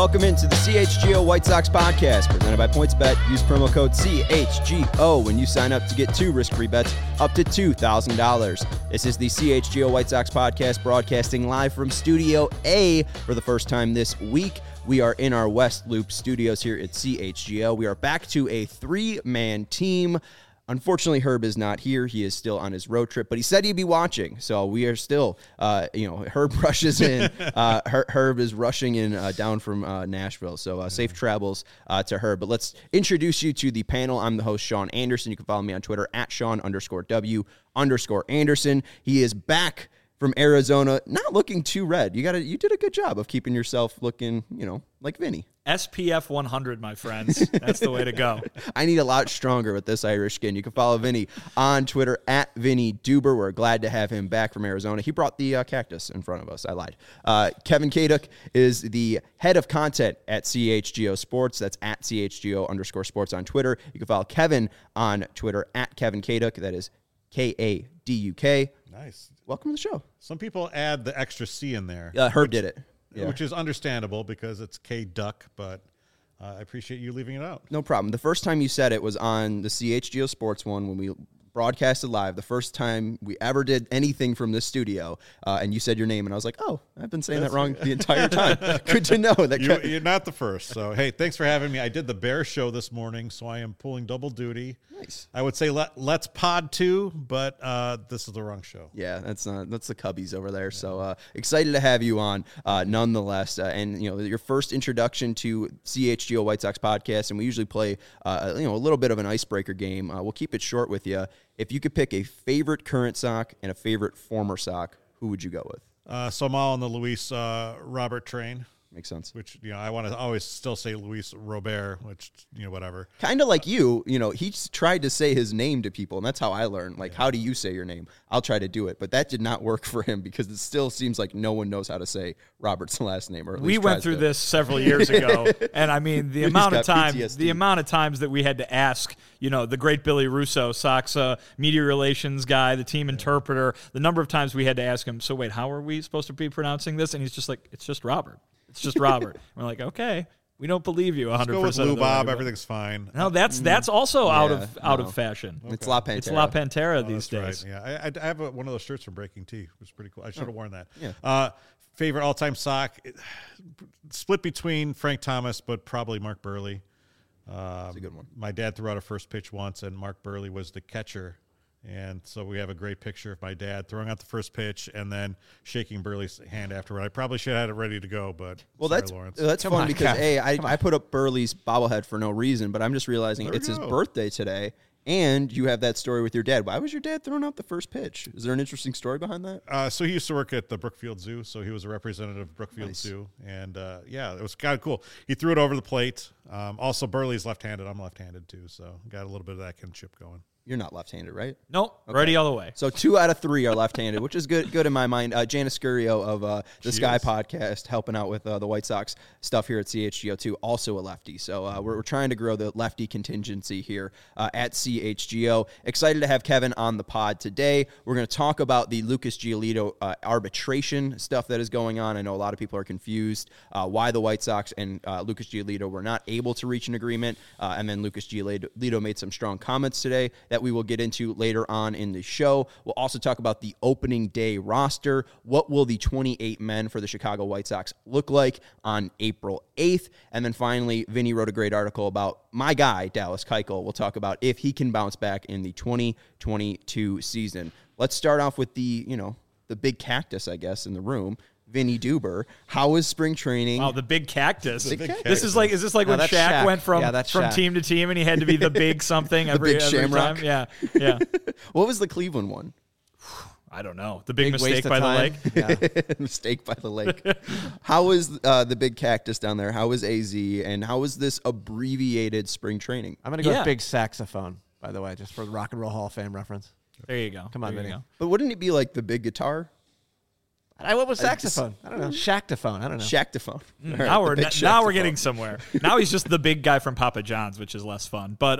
Welcome into the CHGO White Sox podcast presented by PointsBet. Use promo code CHGO when you sign up to get 2 risk-free bets up to $2,000. This is the CHGO White Sox podcast broadcasting live from Studio A for the first time this week. We are in our West Loop studios here at CHGO. We are back to a 3-man team. Unfortunately, Herb is not here. He is still on his road trip, but he said he'd be watching. So we are still, Herb rushes in. Herb is rushing in down from Nashville. So safe travels to Herb. But let's introduce you to the panel. I'm the host, Sean Anderson. You can follow me on Twitter at Sean_W_Anderson. He is back from Arizona, not looking too red. You did a good job of keeping yourself looking, like Vinny. SPF 100, my friends. That's the way to go. I need a lot stronger with this Irish skin. You can follow Vinny on Twitter at Vinny Duber. We're glad to have him back from Arizona. He brought the cactus in front of us. I lied. Kevin Kaduk is the head of content at CHGO Sports. That's at CHGO_sports on Twitter. You can follow Kevin on Twitter at Kevin Kaduk. That is Kaduk. Nice. Welcome to the show. Some people add the extra C in there. Herb did it. Yeah. Which is understandable because it's K-Duck, but I appreciate you leaving it out. No problem. The first time you said it was on the CHGO Sports one when we broadcasted live, the first time we ever did anything from this studio, and you said your name, and I was like, oh, I've been saying that wrong the entire time. Good to know. You're not the first. So, hey, thanks for having me. I did the Bear show this morning, so I am pulling double duty. Nice. I would say let's pod too, but this is the wrong show. Yeah, that's the Cubbies over there. Yeah. So excited to have you on nonetheless. And, your first introduction to CHGO White Sox podcast, and we usually play, a little bit of an icebreaker game. We'll keep it short with you. If you could pick a favorite current Sox and a favorite former Sox, who would you go with? So I'm all on the Luis Robert train. Makes sense. Which, I want to always still say Luis Robert, which, whatever. Kind of like you, he tried to say his name to people, and that's how I learned. Like, how do you say your name? I'll try to do it. But that did not work for him because it still seems like no one knows how to say Robert's last name. Or at least we went through this several years ago, and I mean, the amount of times that we had to ask, the great Billy Russo, Sox media relations guy, the team interpreter, the number of times we had to ask him, so wait, how are we supposed to be pronouncing this? And he's just like, it's just Robert. It's just Robert. We're like, okay, we don't believe you 100%. Let's go with Lou Bob. Everything's fine. No, that's also out of fashion. Okay. It's La Pantera. It's La Pantera these days. Right. Yeah, I have one of those shirts from Breaking Tea. It was pretty cool. I should have worn that. Yeah. Favorite all-time Sox, split between Frank Thomas, but probably Mark Buehrle. That's a good one. My dad threw out a first pitch once, and Mark Buehrle was the catcher. And so we have a great picture of my dad throwing out the first pitch and then shaking Buehrle's hand afterward. I probably should have had it ready to go, but that's fun because I put up Buehrle's bobblehead for no reason, but I'm just realizing it's his birthday today, and you have that story with your dad. Why was your dad throwing out the first pitch? Is there an interesting story behind that? So he used to work at the Brookfield Zoo, so he was a representative of Brookfield Zoo, and it was kind of cool. He threw it over the plate. Also, Buehrle's left-handed. I'm left-handed too, so got a little bit of that kinship going. You're not left-handed, right? Nope. Okay. Right the other way. So 2 out of 3 are left-handed, which is good in my mind. Janice Scurio of the Sky Podcast, helping out with the White Sox stuff here at CHGO too, also a lefty. So we're trying to grow the lefty contingency here at CHGO. Excited to have Kevin on the pod today. We're going to talk about the Lucas Giolito arbitration stuff that is going on. I know a lot of people are confused why the White Sox and Lucas Giolito were not able to reach an agreement. And then Lucas Giolito made some strong comments today that we will get into later on in the show. We'll also talk about the opening day roster. What will the 28 men for the Chicago White Sox look like on April 8th? And then finally, Vinny wrote a great article about my guy, Dallas Keuchel. We'll talk about if he can bounce back in the 2022 season. Let's start off with the big cactus, I guess, in the room. Vinny Duber, how was spring training? Wow, the big cactus. Is this like when Shaq went from team to team and he had to be the big something every Shamrock? Time? Yeah. What was the Cleveland one? I don't know. The big mistake by the lake? Yeah. Mistake by the lake. How was the big cactus down there? How was AZ? And how was this abbreviated spring training? I'm going to go with big saxophone, by the way, just for the Rock and Roll Hall of Fame reference. There you go. Come on, Vinny. But wouldn't it be like the big guitar? I went with saxophone. I don't know. Shactophone. I don't know. Shactophone. Now we're getting somewhere. Now he's just the big guy from Papa John's, which is less fun. But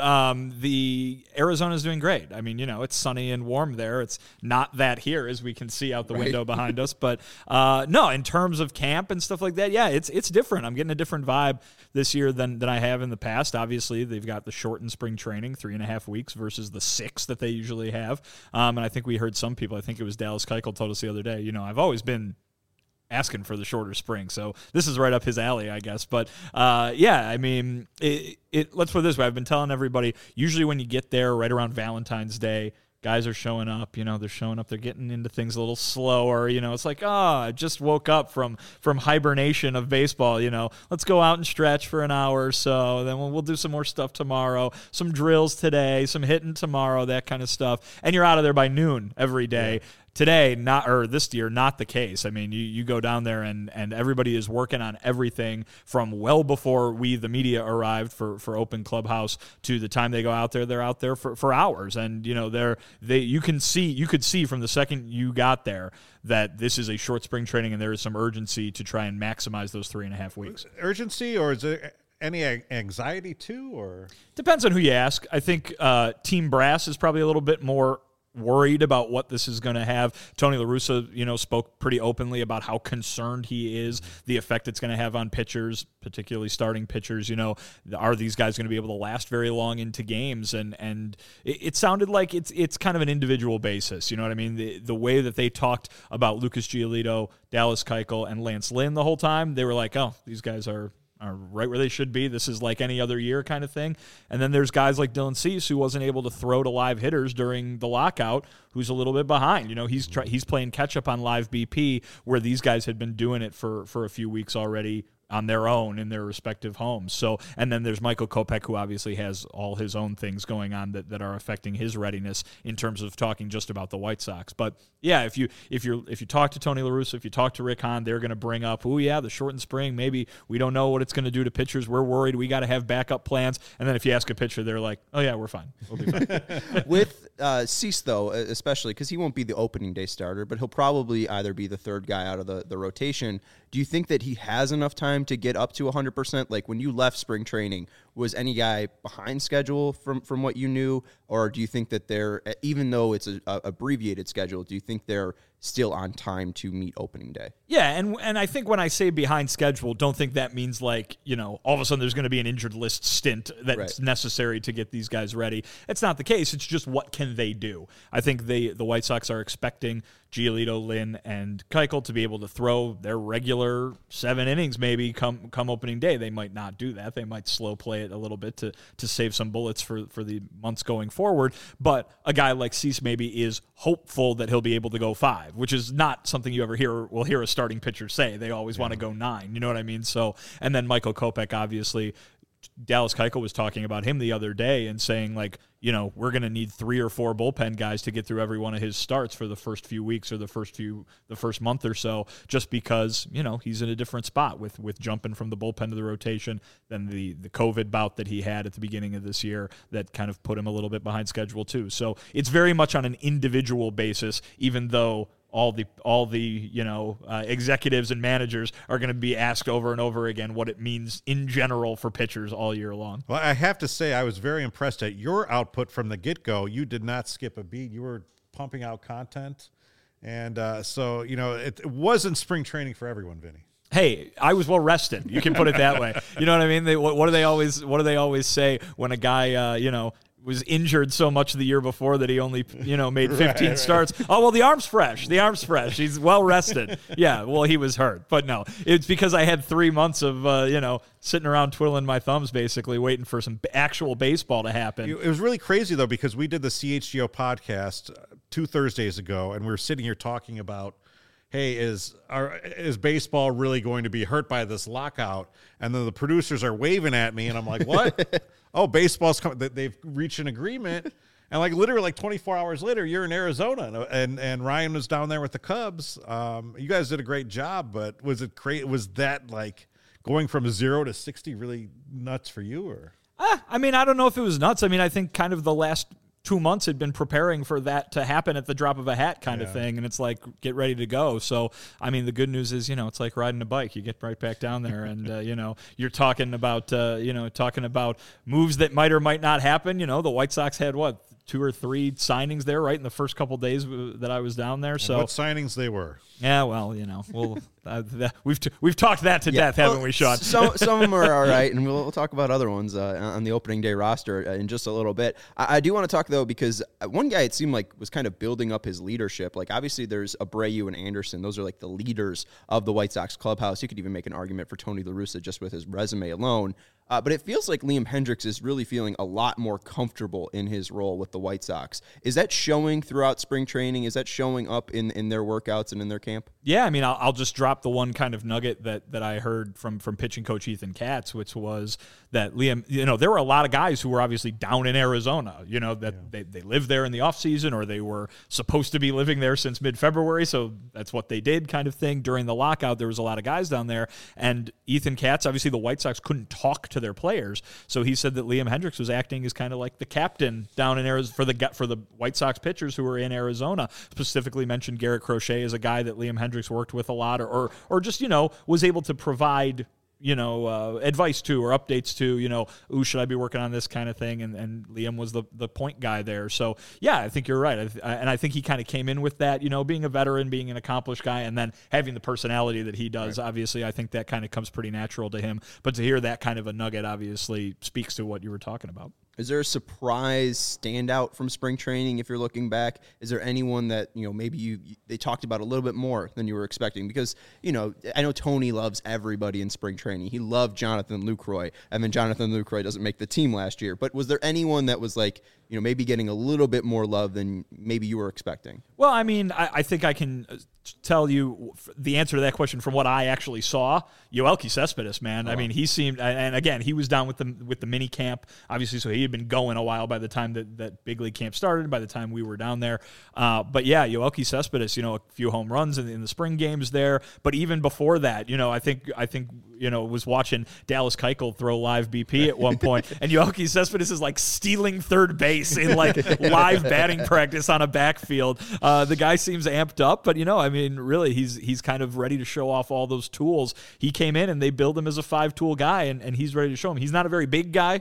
the Arizona's doing great. I mean, it's sunny and warm there. It's not that here, as we can see out the window behind us. But no, in terms of camp and stuff like that, yeah, it's different. I'm getting a different vibe this year than I have in the past. Obviously, they've got the shortened spring training, 3.5 weeks versus the 6 that they usually have. And I think we heard some people, I think it was Dallas Keuchel told us the other day, I've always been asking for the shorter spring, so this is right up his alley, I guess. But yeah, I mean, let's put it this way. I've been telling everybody, usually when you get there right around Valentine's Day, guys are showing up, they're showing up, they're getting into things a little slower, it's like, I just woke up from hibernation of baseball, let's go out and stretch for an hour or so, then we'll do some more stuff tomorrow, some drills today, some hitting tomorrow, that kind of stuff, and you're out of there by noon every day. Yeah. Today, this year, not the case. I mean, you go down there and everybody is working on everything from well before we, the media, arrived for open clubhouse to the time they go out there. They're out there for hours, and you could see from the second you got there that this is a short spring training and there is some urgency to try and maximize those 3.5 weeks. Urgency, or is there any anxiety too, or depends on who you ask. I think Team Brass is probably a little bit more worried about what this is going to have. Tony La Russa, spoke pretty openly about how concerned he is, the effect it's going to have on pitchers, particularly starting pitchers. Are these guys going to be able to last very long into games? And it sounded like it's kind of an individual basis. You know what I mean? The way that they talked about Lucas Giolito, Dallas Keuchel, and Lance Lynn the whole time, they were like, oh, these guys are right where they should be. This is like any other year kind of thing. And then there's guys like Dylan Cease, who wasn't able to throw to live hitters during the lockout, who's a little bit behind. He's playing catch up on live BP, where these guys had been doing it for a few weeks already on their own in their respective homes. So, and then there's Michael Kopech, who obviously has all his own things going on that are affecting his readiness in terms of talking just about the White Sox. But yeah, if you talk to Tony La Russa, if you talk to Rick Hahn, they're going to bring up, the shortened spring, maybe we don't know what it's going to do to pitchers. We're worried. We got to have backup plans. And then if you ask a pitcher, they're like, oh yeah, we're fine. We'll be fine. With Cease, though, especially because he won't be the opening day starter, but he'll probably either be the third guy out of the rotation. Do you think that he has enough time to get up to 100%? Like when you left spring training, was any guy behind schedule from what you knew? Or do you think that they're, even though it's a abbreviated schedule, do you think they're still on time to meet opening day? Yeah, and I think when I say behind schedule, don't think that means like, all of a sudden there's going to be an injured list stint that's necessary to get these guys ready. It's not the case. It's just what can they do? I think the White Sox are expecting Giolito, Lynn, and Keuchel to be able to throw their regular 7 innings maybe come opening day. They might not do that. They might slow play it a little bit to save some bullets for the months going forward. But a guy like Cease maybe is hopeful that he'll be able to go 5, which is not something you ever hear a starting pitcher say. They always want to go 9. You know what I mean? So, and then Michael Kopech, obviously, Dallas Keuchel was talking about him the other day and saying, like, we're going to need 3 or 4 bullpen guys to get through every one of his starts for the first few weeks or the first month or so, just because, he's in a different spot with jumping from the bullpen to the rotation than the COVID bout that he had at the beginning of this year that kind of put him a little bit behind schedule too. So it's very much on an individual basis, even though all the executives and managers are going to be asked over and over again what it means in general for pitchers all year long. Well, I have to say I was very impressed at your output from the get-go. You did not skip a beat. You were pumping out content. And so, it wasn't spring training for everyone, Vinny. Hey, I was well rested. You can put it that way. You know what I mean? What do they always say when a guy, was injured so much the year before that he only, made 15 starts. Oh, well, the arm's fresh. He's well rested. Yeah, well, he was hurt. But no, it's because I had 3 months of, sitting around twiddling my thumbs, basically waiting for some actual baseball to happen. It was really crazy, though, because we did the CHGO podcast 2 Thursdays ago, and we were sitting here talking about, hey, is baseball really going to be hurt by this lockout? And then the producers are waving at me, and I'm like, what? Oh, baseball's coming. They've reached an agreement. And literally 24 hours later, you're in Arizona, and Ryan was down there with the Cubs. You guys did a great job, but was it great? Was that going from 0 to 60 really nuts for you? Or I mean, I don't know if it was nuts. I mean, I think kind of the last 2 months had been preparing for that to happen at the drop of a hat kind of thing. And it's like, get ready to go. So, I mean, the good news is, it's like riding a bike. You get right back down there and, you're talking about moves that might or might not happen. The White Sox had 2 or 3 signings there right in the first couple days that I was down there. And so what signings they were? Yeah, well, we've talked that to death, haven't we, Sean? Some of them are all right, and we'll talk about other ones on the opening day roster in just a little bit. I do want to talk, though, because one guy it seemed like was kind of building up his leadership. Like, obviously, there's Abreu and Anderson. Those are like the leaders of the White Sox clubhouse. You could even make an argument for Tony La Russa just with his resume alone. But it feels like Liam Hendriks is really feeling a lot more comfortable in his role with the White Sox. Is that showing throughout spring training? Is that showing up in their workouts and in their camp? Yeah, I mean, I'll just drop the one kind of nugget that I heard from pitching coach Ethan Katz, which was that Liam, there were a lot of guys who were obviously down in Arizona, they lived there in the offseason or they were supposed to be living there since mid-February, so that's what they did kind of thing. During the lockout, there was a lot of guys down there, and Ethan Katz, obviously the White Sox couldn't talk to their players, so he said that Liam Hendriks was acting as kind of like the captain down in Arizona for the White Sox pitchers who were in Arizona. Specifically mentioned Garrett Crochet as a guy that Liam Hendriks worked with a lot, or just was able to provide advice to or updates to, should I be working on this kind of thing? And Liam was the point guy there. So, yeah, I think you're right. And I think he kind of came in with that, being a veteran, being an accomplished guy, and then having the personality that he does. Right. Obviously, I think that kind of comes pretty natural to him. But to hear that kind of a nugget obviously speaks to what you were talking about. Is there a surprise standout from spring training if you're looking back? Is there anyone that, maybe they talked about a little bit more than you were expecting? Because, I know Tony loves everybody in spring training. He loved Jonathan Lucroy, and then Jonathan Lucroy doesn't make the team last year. But was there anyone that was like, maybe getting a little bit more love than maybe you were expecting? Well, I mean, I think I can tell you the answer to that question from what I actually saw. Yoelqui Cespedes, man. Oh. I mean, he seemed, and again, he was down with the mini camp, obviously, so he had been going a while by the time that big league camp started, by the time we were down there. But yeah, Yoelqui Cespedes, a few home runs in the spring games there. But even before that, I think was watching Dallas Keuchel throw live BP at one point, and Yoelqui Cespedes is like stealing third base in like live batting practice on a backfield. The guy seems amped up, but I mean, really, he's kind of ready to show off all those tools. He came in and they build him as a 5-tool guy, and he's ready to show him. He's not a very big guy,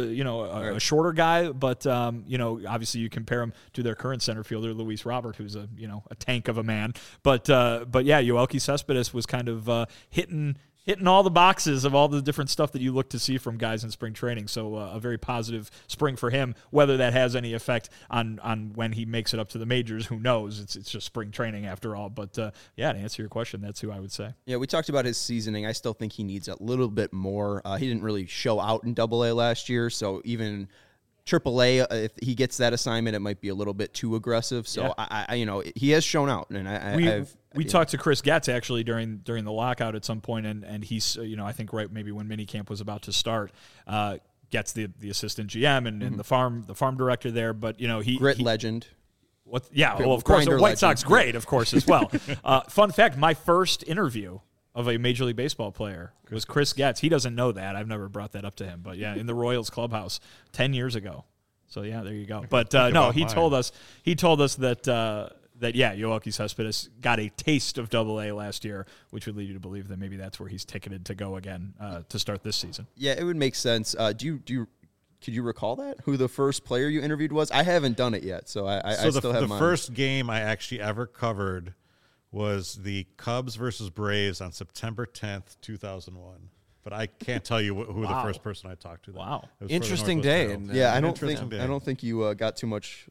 a shorter guy, but obviously you compare him to their current center fielder, Luis Robert, who's a tank of a man. But yeah, Yoelqui Cespedes was kind of hitting all the boxes of all the different stuff that you look to see from guys in spring training. So a very positive spring for him. Whether that has any effect on when he makes it up to the majors, who knows? It's just spring training after all. But yeah, to answer your question, that's who I would say. Yeah, we talked about his seasoning. I still think he needs a little bit more. He didn't really show out in AA last year, so even AAA, if he gets that assignment, it might be a little bit too aggressive. So yeah. He has shown out, and we talked to Chris Getz actually during the lockout at some point, and he's I think right maybe when minicamp was about to start, Getz the assistant GM and the farm director there, but he legend. What? Yeah, well of course, White Sox great, of course as well. Fun fact: my first interview of a Major League Baseball player was Chris Getz. He doesn't know that. I've never brought that up to him. But, yeah, in the Royals clubhouse 10 years ago. So, yeah, there you go. But, no, he told us that, Yoelqui Cespedes got a taste of AA last year, which would lead you to believe that maybe that's where he's ticketed to go again to start this season. Yeah, it would make sense. Could you recall that? Who the first player you interviewed was? I haven't done it yet, so I still have mine. The first game I actually ever covered was the Cubs versus Braves on September 10th, 2001. But I can't tell you who the first person I talked to. Wow. Interesting day. Yeah, I don't think you got too much,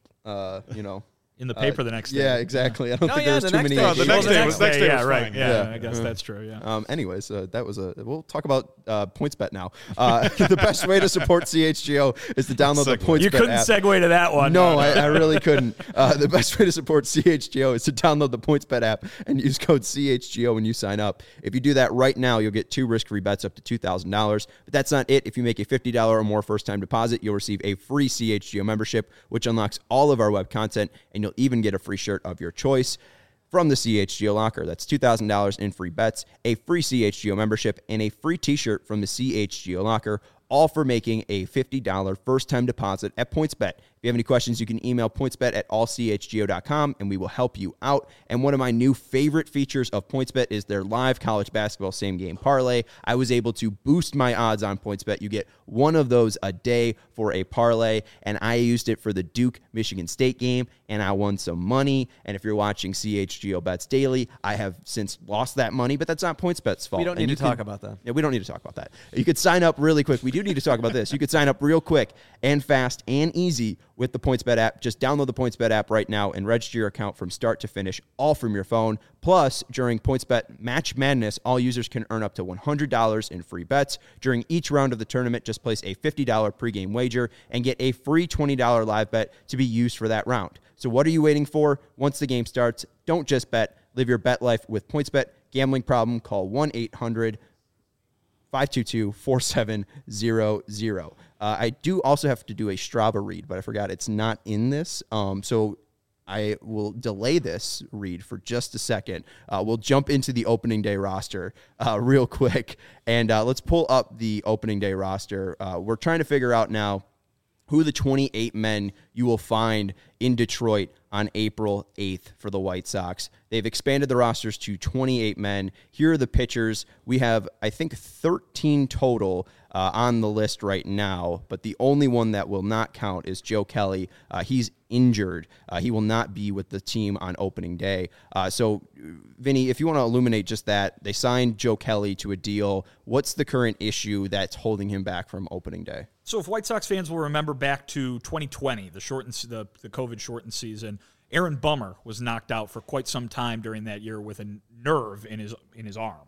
in the paper the next day. Yeah, exactly. I don't think there was too many. The next day was right. fine. Yeah, I guess that's true. Yeah. Anyways, that was we'll talk about PointsBet now. The best way to support CHGO is to download the PointsBet app. You couldn't segue to that one. No, I really couldn't. The best way to support CHGO is to download the PointsBet app and use code CHGO when you sign up. If you do that right now, you'll get 2 risk-free bets up to $2,000. But that's not it. If you make a $50 or more first-time deposit, you'll receive a free CHGO membership, which unlocks all of our web content, and you'll even get a free shirt of your choice from the CHGO Locker. That's $2,000 in free bets, a free CHGO membership, and a free t-shirt from the CHGO Locker, all for making a $50 first-time deposit at PointsBet. If you have any questions, you can email pointsbet@allchgo.com, and we will help you out. And one of my new favorite features of PointsBet is their live college basketball same-game parlay. I was able to boost my odds on PointsBet. You get one of those a day for a parlay, and I used it for the Duke-Michigan State game, and I won some money. And if you're watching CHGO Bets Daily, I have since lost that money, but that's not PointsBet's fault. We don't need to talk about that. Yeah, we don't need to talk about that. You could sign up really quick. We do need to talk about this. You could sign up real quick and fast and easy with the PointsBet app. Just download the PointsBet app right now and register your account from start to finish, all from your phone. Plus, during PointsBet Match Madness, all users can earn up to $100 in free bets. During each round of the tournament, just place a $50 pregame wager and get a free $20 live bet to be used for that round. So what are you waiting for? Once the game starts, don't just bet. Live your bet life with PointsBet. Gambling problem? Call 1-800-522-4700. I do also have to do a Strava read, but I forgot it's not in this. So I will delay this read for just a second. We'll jump into the opening day roster real quick, and let's pull up the opening day roster. We're trying to figure out now who the 28 men you will find in Detroit on April 8th for the White Sox. They've expanded the rosters to 28 men. Here are the pitchers. We have, I think, 13 total on the list right now, but the only one that will not count is Joe Kelly. He's injured. He will not be with the team on opening day. So, Vinny, if you want to illuminate just that, they signed Joe Kelly to a deal. What's the current issue that's holding him back from opening day? So if White Sox fans will remember back to 2020, the COVID-shortened season, Aaron Bummer was knocked out for quite some time during that year with a nerve in his arm,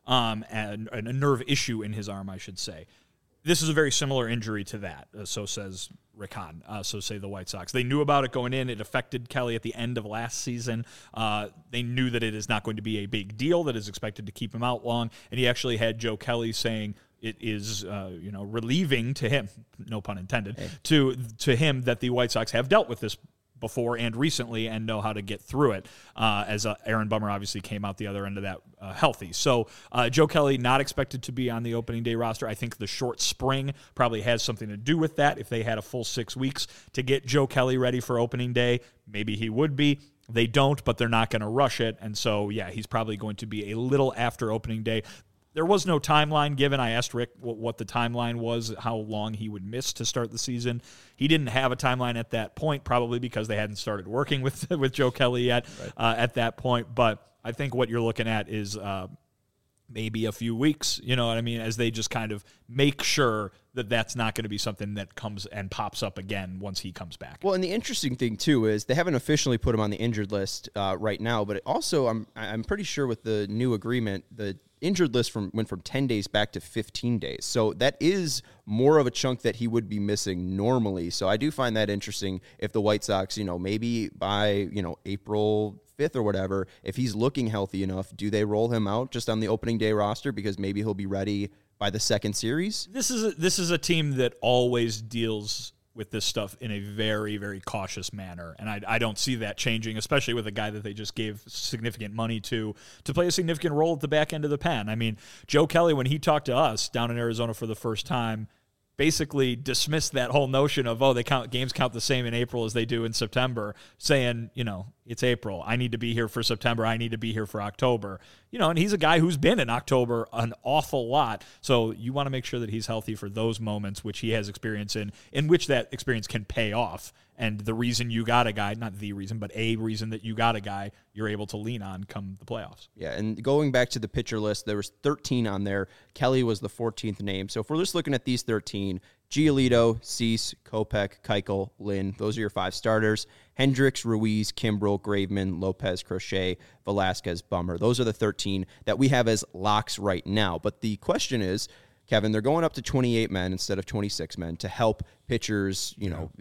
and a nerve issue in his arm, I should say. This is a very similar injury to that, so says Rick Hahn, so say the White Sox. They knew about it going in. It affected Kelly at the end of last season. They knew that it is not going to be a big deal, that is expected to keep him out long, and he actually had Joe Kelly saying it is relieving to him, no pun intended, to him that the White Sox have dealt with this before and recently and know how to get through it, as Aaron Bummer obviously came out the other end of that healthy. So Joe Kelly not expected to be on the opening day roster. I think the short spring probably has something to do with that. If they had a full 6 weeks to get Joe Kelly ready for opening day, maybe he would be. They don't, but they're not going to rush it. And so, yeah, he's probably going to be a little after opening day. There was no timeline given. I asked Rick what the timeline was, how long he would miss to start the season. He didn't have a timeline at that point, probably because they hadn't started working with Joe Kelly yet at that point. But I think what you're looking at is maybe a few weeks, you know what I mean, as they just kind of make sure that that's not going to be something that comes and pops up again once he comes back. Well, and the interesting thing, too, is they haven't officially put him on the injured list right now, but also I'm pretty sure with the new agreement, the injured list went from 10 days back to 15 days. So that is more of a chunk that he would be missing normally. So I do find that interesting if the White Sox, maybe by, April 5th or whatever, if he's looking healthy enough, do they roll him out just on the opening day roster because maybe he'll be ready by the second series? This is a team that always deals with this stuff in a very, very cautious manner. And I don't see that changing, especially with a guy that they just gave significant money to play a significant role at the back end of the pen. I mean, Joe Kelly, when he talked to us down in Arizona for the first time, basically dismissed that whole notion of, games count the same in April as they do in September, saying, it's April. I need to be here for September. I need to be here for October. And he's a guy who's been in October an awful lot. So you want to make sure that he's healthy for those moments, which he has experience in which that experience can pay off. And the reason you got a guy, not the reason, but a reason that you got a guy you're able to lean on come the playoffs. Yeah, and going back to the pitcher list, there was 13 on there. Kelly was the 14th name. So if we're just looking at these 13, Giolito, Cease, Kopech, Keuchel, Lynn, those are your 5 starters. Hendricks, Ruiz, Kimbrel, Graveman, Lopez, Crochet, Velasquez, Bummer. Those are the 13 that we have as locks right now. But the question is, Kevin, they're going up to 28 men instead of 26 men to help pitchers,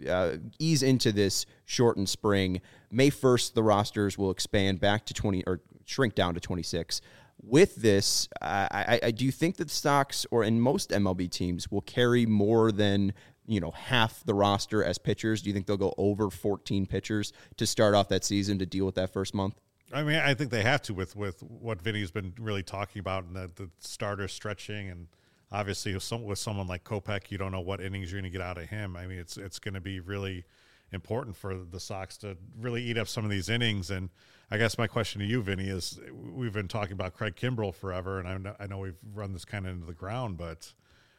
ease into this shortened spring. May 1st, the rosters will expand back to 20 or shrink down to 26. With this, I do you think that the Sox or in most MLB teams will carry more than half the roster as pitchers? Do you think they'll go over 14 pitchers to start off that season to deal with that first month? I mean, I think they have to with what Vinny's been really talking about and the starter stretching and obviously with someone like Kopech, you don't know what innings you're going to get out of him. I mean, it's going to be really important for the Sox to really eat up some of these innings. And I guess my question to you, Vinny, is we've been talking about Craig Kimbrel forever, and I know we've run this kind of into the ground, but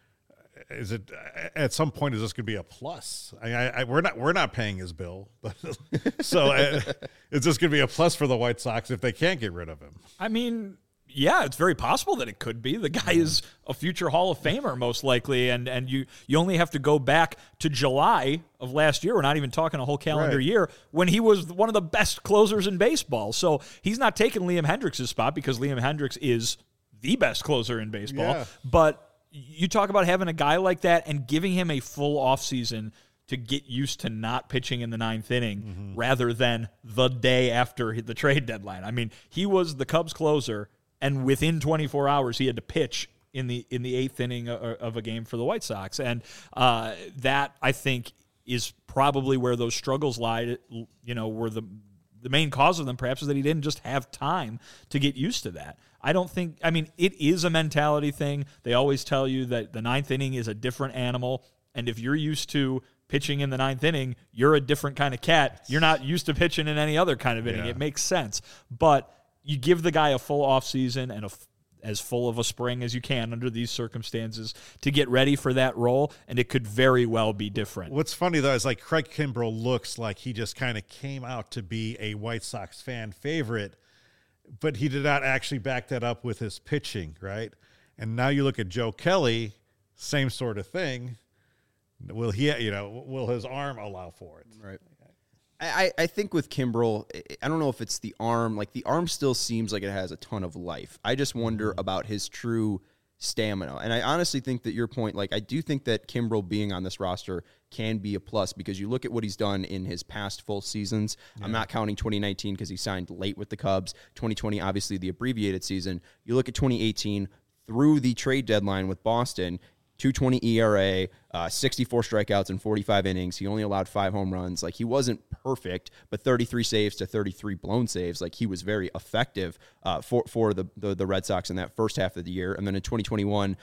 is it at some point is this going to be a plus? We're not paying his bill, but so is this going to be a plus for the White Sox if they can't get rid of him? I mean, yeah, it's very possible that it could be. The guy is a future Hall of Famer, most likely, and you only have to go back to July of last year. We're not even talking a whole calendar year, when he was one of the best closers in baseball. So he's not taking Liam Hendriks' spot because Liam Hendriks is the best closer in baseball. Yeah. But you talk about having a guy like that and giving him a full offseason to get used to not pitching in the ninth inning rather than the day after the trade deadline. I mean, he was the Cubs closer, and within 24 hours, he had to pitch in the eighth inning of a game for the White Sox. And that, I think, is probably where those struggles lie, were the main cause of them, perhaps, is that he didn't just have time to get used to that. It is a mentality thing. They always tell you that the ninth inning is a different animal, and if you're used to pitching in the ninth inning, you're a different kind of cat. You're not used to pitching in any other kind of inning. It makes sense. But you give the guy a full offseason and as full of a spring as you can under these circumstances to get ready for that role, and it could very well be different. What's funny, though, is like Craig Kimbrel looks like he just kind of came out to be a White Sox fan favorite, but he did not actually back that up with his pitching, right? And now you look at Joe Kelly, same sort of thing. Will his arm allow for it? Right. I think with Kimbrel, I don't know if it's the arm. Like, the arm still seems like it has a ton of life. I just wonder about his true stamina. And I honestly think that your point, like, I do think that Kimbrel being on this roster can be a plus because you look at what he's done in his past full seasons. Yeah. I'm not counting 2019 because he signed late with the Cubs. 2020, obviously, the abbreviated season. You look at 2018 through the trade deadline with Boston, 2.20 ERA, 64 strikeouts in 45 innings. He only allowed 5 home runs. Like, he wasn't perfect, but 33 saves to 33 blown saves. Like, he was very effective for the Red Sox in that first half of the year. And then in 2021,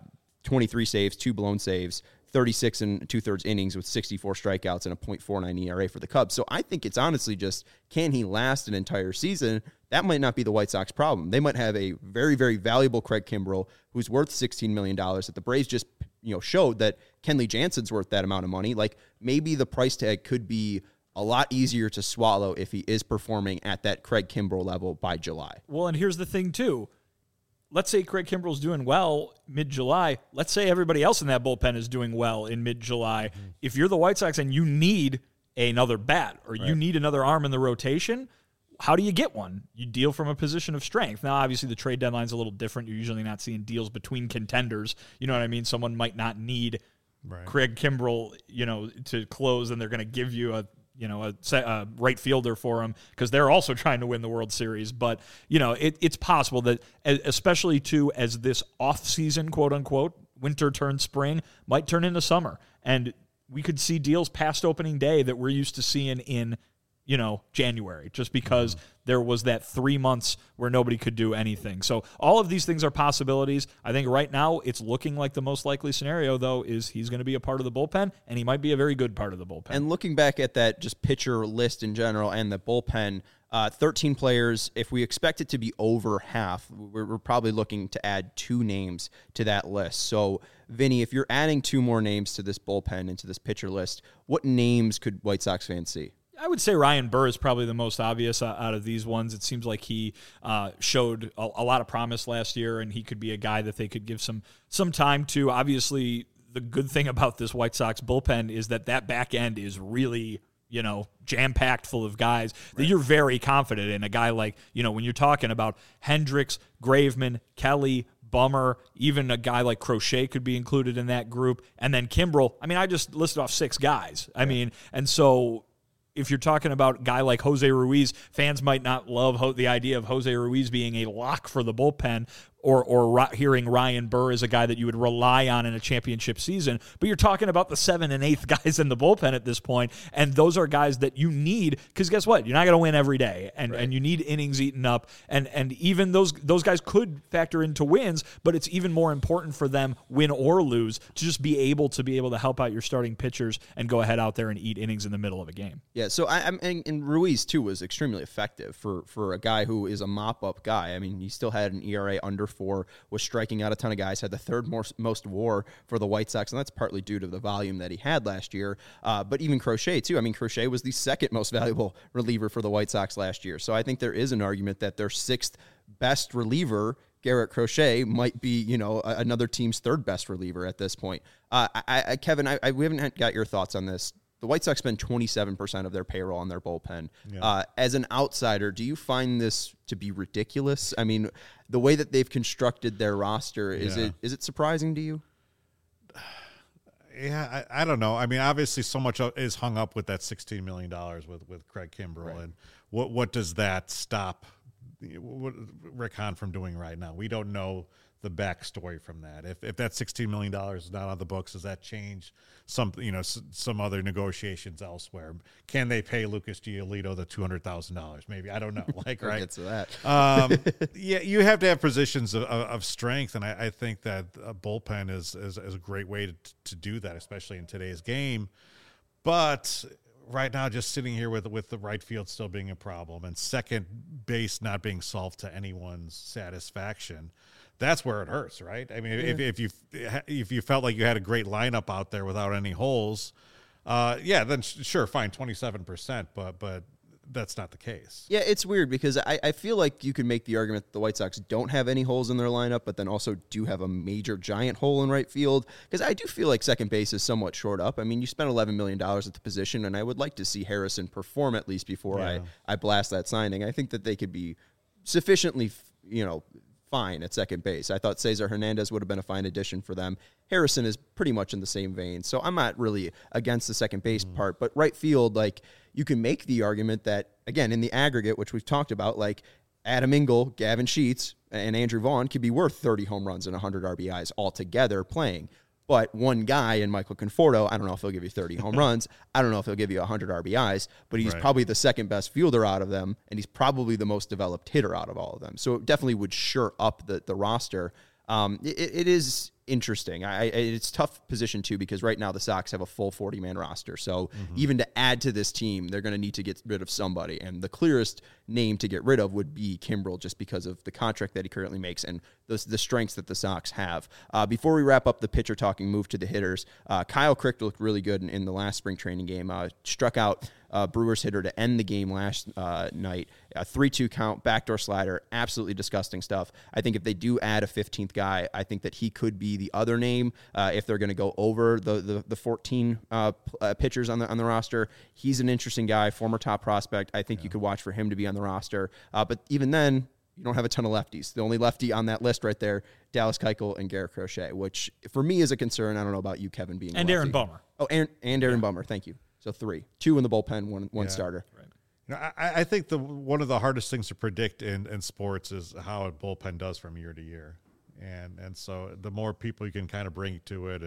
23 saves, 2 blown saves, 36 and 2/3 innings with 64 strikeouts and a .49 ERA for the Cubs. So I think it's honestly just, can he last an entire season? That might not be the White Sox problem. They might have a very, very valuable Craig Kimbrel who's worth $16 million that the Braves just showed that Kenley Jansen's worth that amount of money. Like, maybe the price tag could be a lot easier to swallow if he is performing at that Craig Kimbrel level by July. Well, and here's the thing, too. Let's say Craig Kimbrel's doing well mid-July. Let's say everybody else in that bullpen is doing well in mid-July. Mm-hmm. If you're the White Sox and you need another bat or you need another arm in the rotation, how do you get one? You deal from a position of strength. Now, obviously, the trade deadline's a little different. You're usually not seeing deals between contenders. You know what I mean? Someone might not need Craig Kimbrel, to close, and they're going to give you a right fielder for him because they're also trying to win the World Series. But, it's possible that, especially too, as this off-season, quote-unquote, winter turns spring, might turn into summer. And we could see deals past opening day that we're used to seeing in January, just because there was that 3 months where nobody could do anything. So all of these things are possibilities. I think right now it's looking like the most likely scenario, though, is he's going to be a part of the bullpen, and he might be a very good part of the bullpen. And looking back at that just pitcher list in general and the bullpen, 13 players, if we expect it to be over half, we're probably looking to add 2 names to that list. So, Vinny, if you're adding 2 more names to this bullpen and to this pitcher list, what names could White Sox fans see? I would say Ryan Burr is probably the most obvious out of these ones. It seems like he showed a lot of promise last year, and he could be a guy that they could give some time to. Obviously, the good thing about this White Sox bullpen is that back end is really, jam-packed full of guys that you're very confident in. A guy like, when you're talking about Hendriks, Graveman, Kelly, Bummer, even a guy like Crochet could be included in that group. And then Kimbrel, I just listed off 6 guys. And so if you're talking about a guy like Jose Ruiz, fans might not love the idea of Jose Ruiz being a lock for the bullpen, or hearing Ryan Burr is a guy that you would rely on in a championship season, but you're talking about the 7th and 8th guys in the bullpen at this point, and those are guys that you need, because guess what? You're not going to win every day, and you need innings eaten up, and even those guys could factor into wins, but it's even more important for them, win or lose, to just be able to help out your starting pitchers and go ahead out there and eat innings in the middle of a game. Yeah, so and Ruiz too was extremely effective for a guy who is a mop-up guy. I mean, he still had an ERA under 4, was striking out a ton of guys, had the 3rd most WAR for the White Sox, and that's partly due to the volume that he had last year. But even Crochet too. I mean, Crochet was the 2nd most valuable reliever for the White Sox last year. So I think there is an argument that their 6th best reliever, Garrett Crochet, might be, another team's 3rd best reliever at this point. Kevin, we haven't got your thoughts on this. The White Sox spend 27% of their payroll on their bullpen. Yeah. As an outsider, do you find this to be ridiculous? I mean, the way that they've constructed their roster, is it surprising to you? Yeah, I don't know. I mean, obviously, so much is hung up with that $16 million with Craig Kimbrel, right. And what does that stop Rick Hahn from doing right now? We don't know the backstory from that. If that $16 million is not on the books, does that change some other negotiations elsewhere? Can they pay Lucas Giolito the $200,000? Maybe, I don't know. Right? Get to that. Yeah, you have to have positions of strength, and I think that a bullpen is a great way to do that, especially in today's game. But right now, just sitting here with the right field still being a problem and second base not being solved to anyone's satisfaction, that's where it hurts, right? I mean, if you felt like you had a great lineup out there without any holes, then sure, fine, 27%, but that's not the case. Yeah, it's weird because I feel like you could make the argument that the White Sox don't have any holes in their lineup, but then also do have a major giant hole in right field, because I do feel like second base is somewhat short up. I mean, you spent $11 million at the position, and I would like to see Harrison perform at least before I blast that signing. I think that they could be sufficiently, fine at second base. I thought Cesar Hernandez would have been a fine addition for them. Harrison is pretty much in the same vein, so I'm not really against the second base part, but right field, you can make the argument that, again, in the aggregate, which we've talked about, Adam Engel, Gavin Sheets, and Andrew Vaughn could be worth 30 home runs and 100 RBIs altogether playing. But one guy in Michael Conforto, I don't know if he'll give you 30 home runs. I don't know if he'll give you 100 RBIs, but he's probably the second best fielder out of them, and he's probably the most developed hitter out of all of them. So it definitely would shore up the roster. It is interesting. It's a tough position, too, because right now the Sox have a full 40-man roster. So even to add to this team, they're going to need to get rid of somebody. And the clearest name to get rid of would be Kimbrel, just because of the contract that he currently makes and the strengths that the Sox have. Before we wrap up the pitcher talking, move to the hitters. Kyle Crick looked really good in the last spring training game. Struck out Brewers hitter to end the game last night. A 3-2 count, backdoor slider, absolutely disgusting stuff. I think if they do add a 15th guy, I think that he could be the other name if they're going to go over the 14 pitchers on the roster. He's an interesting guy, former top prospect. I think you could watch for him to be on the roster. But even then, you don't have a ton of lefties. The only lefty on that list right there, Dallas Keuchel and Garrett Crochet, which for me is a concern. I don't know about you, Kevin, being and Aaron Bummer. Oh, and Aaron Bummer. Thank you. So 3, 2 in the bullpen, one starter. Right. I think one of the hardest things to predict in sports is how a bullpen does from year to year, and so the more people you can kind of bring to it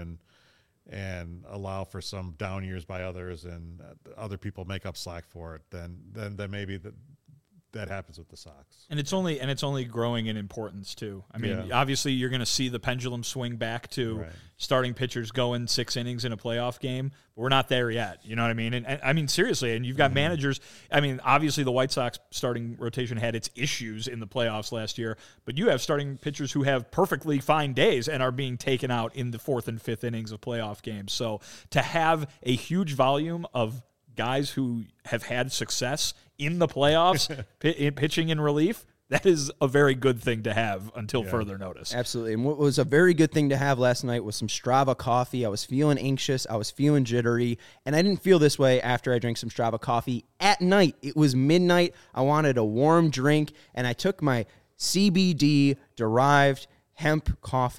and allow for some down years by others and other people make up slack for it, then maybe that happens with the Sox. And it's only growing in importance too. I mean, obviously you're going to see the pendulum swing back to starting pitchers going 6 innings in a playoff game, but we're not there yet. You know what I mean? And I mean, seriously, and you've got managers. I mean, obviously the White Sox starting rotation had its issues in the playoffs last year, but you have starting pitchers who have perfectly fine days and are being taken out in the 4th and 5th innings of playoff games. So to have a huge volume of guys who have had success in the playoffs, pitching in relief, that is a very good thing to have until further notice. Absolutely. And what was a very good thing to have last night was some Strava coffee. I was feeling anxious. I was feeling jittery. And I didn't feel this way after I drank some Strava coffee at night. It was midnight. I wanted a warm drink, and I took my CBD-derived hemp coffee.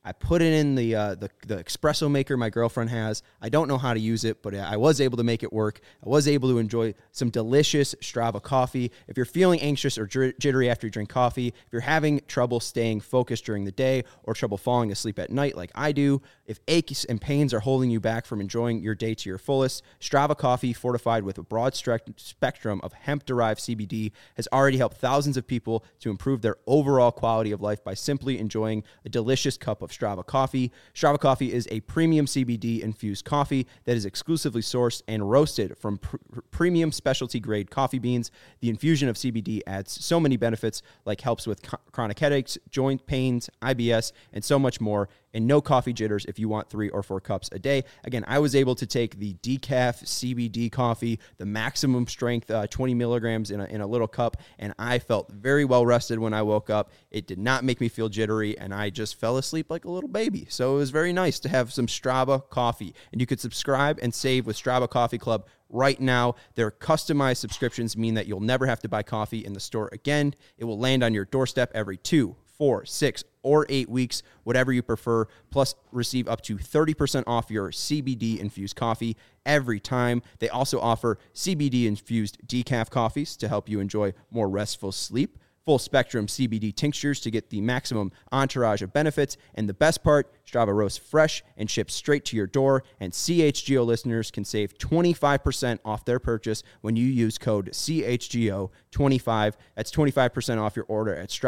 I put it in the espresso maker my girlfriend has. I don't know how to use it, but I was able to make it work. I was able to enjoy some delicious Strava coffee. If you're feeling anxious or jittery after you drink coffee, if you're having trouble staying focused during the day or trouble falling asleep at night like I do, if aches and pains are holding you back from enjoying your day to your fullest, Strava coffee, fortified with a broad spectrum of hemp-derived CBD, has already helped thousands of people to improve their overall quality of life by simply enjoying a delicious cup of Strava coffee. Strava coffee is a premium CBD-infused coffee that is exclusively sourced and roasted from premium specialty-grade coffee beans. The infusion of CBD adds so many benefits, like helps with chronic headaches, joint pains, IBS, and so much more. And no coffee jitters if you want 3 or 4 cups a day. Again, I was able to take the decaf CBD coffee, the maximum strength, 20 milligrams in a little cup, and I felt very well rested when I woke up. It did not make me feel jittery, and I just fell asleep like a little baby. So it was very nice to have some Strava coffee. And you could subscribe and save with Strava Coffee Club right now. Their customized subscriptions mean that you'll never have to buy coffee in the store again. It will land on your doorstep every 2, 4, 6, or 8 weeks, whatever you prefer, plus receive up to 30% off your CBD-infused coffee every time. They also offer CBD-infused decaf coffees to help you enjoy more restful sleep, full-spectrum CBD tinctures to get the maximum entourage of benefits, and the best part, Strava roasts fresh and ships straight to your door, and CHGO listeners can save 25% off their purchase when you use code CHGO25. That's 25% off your order at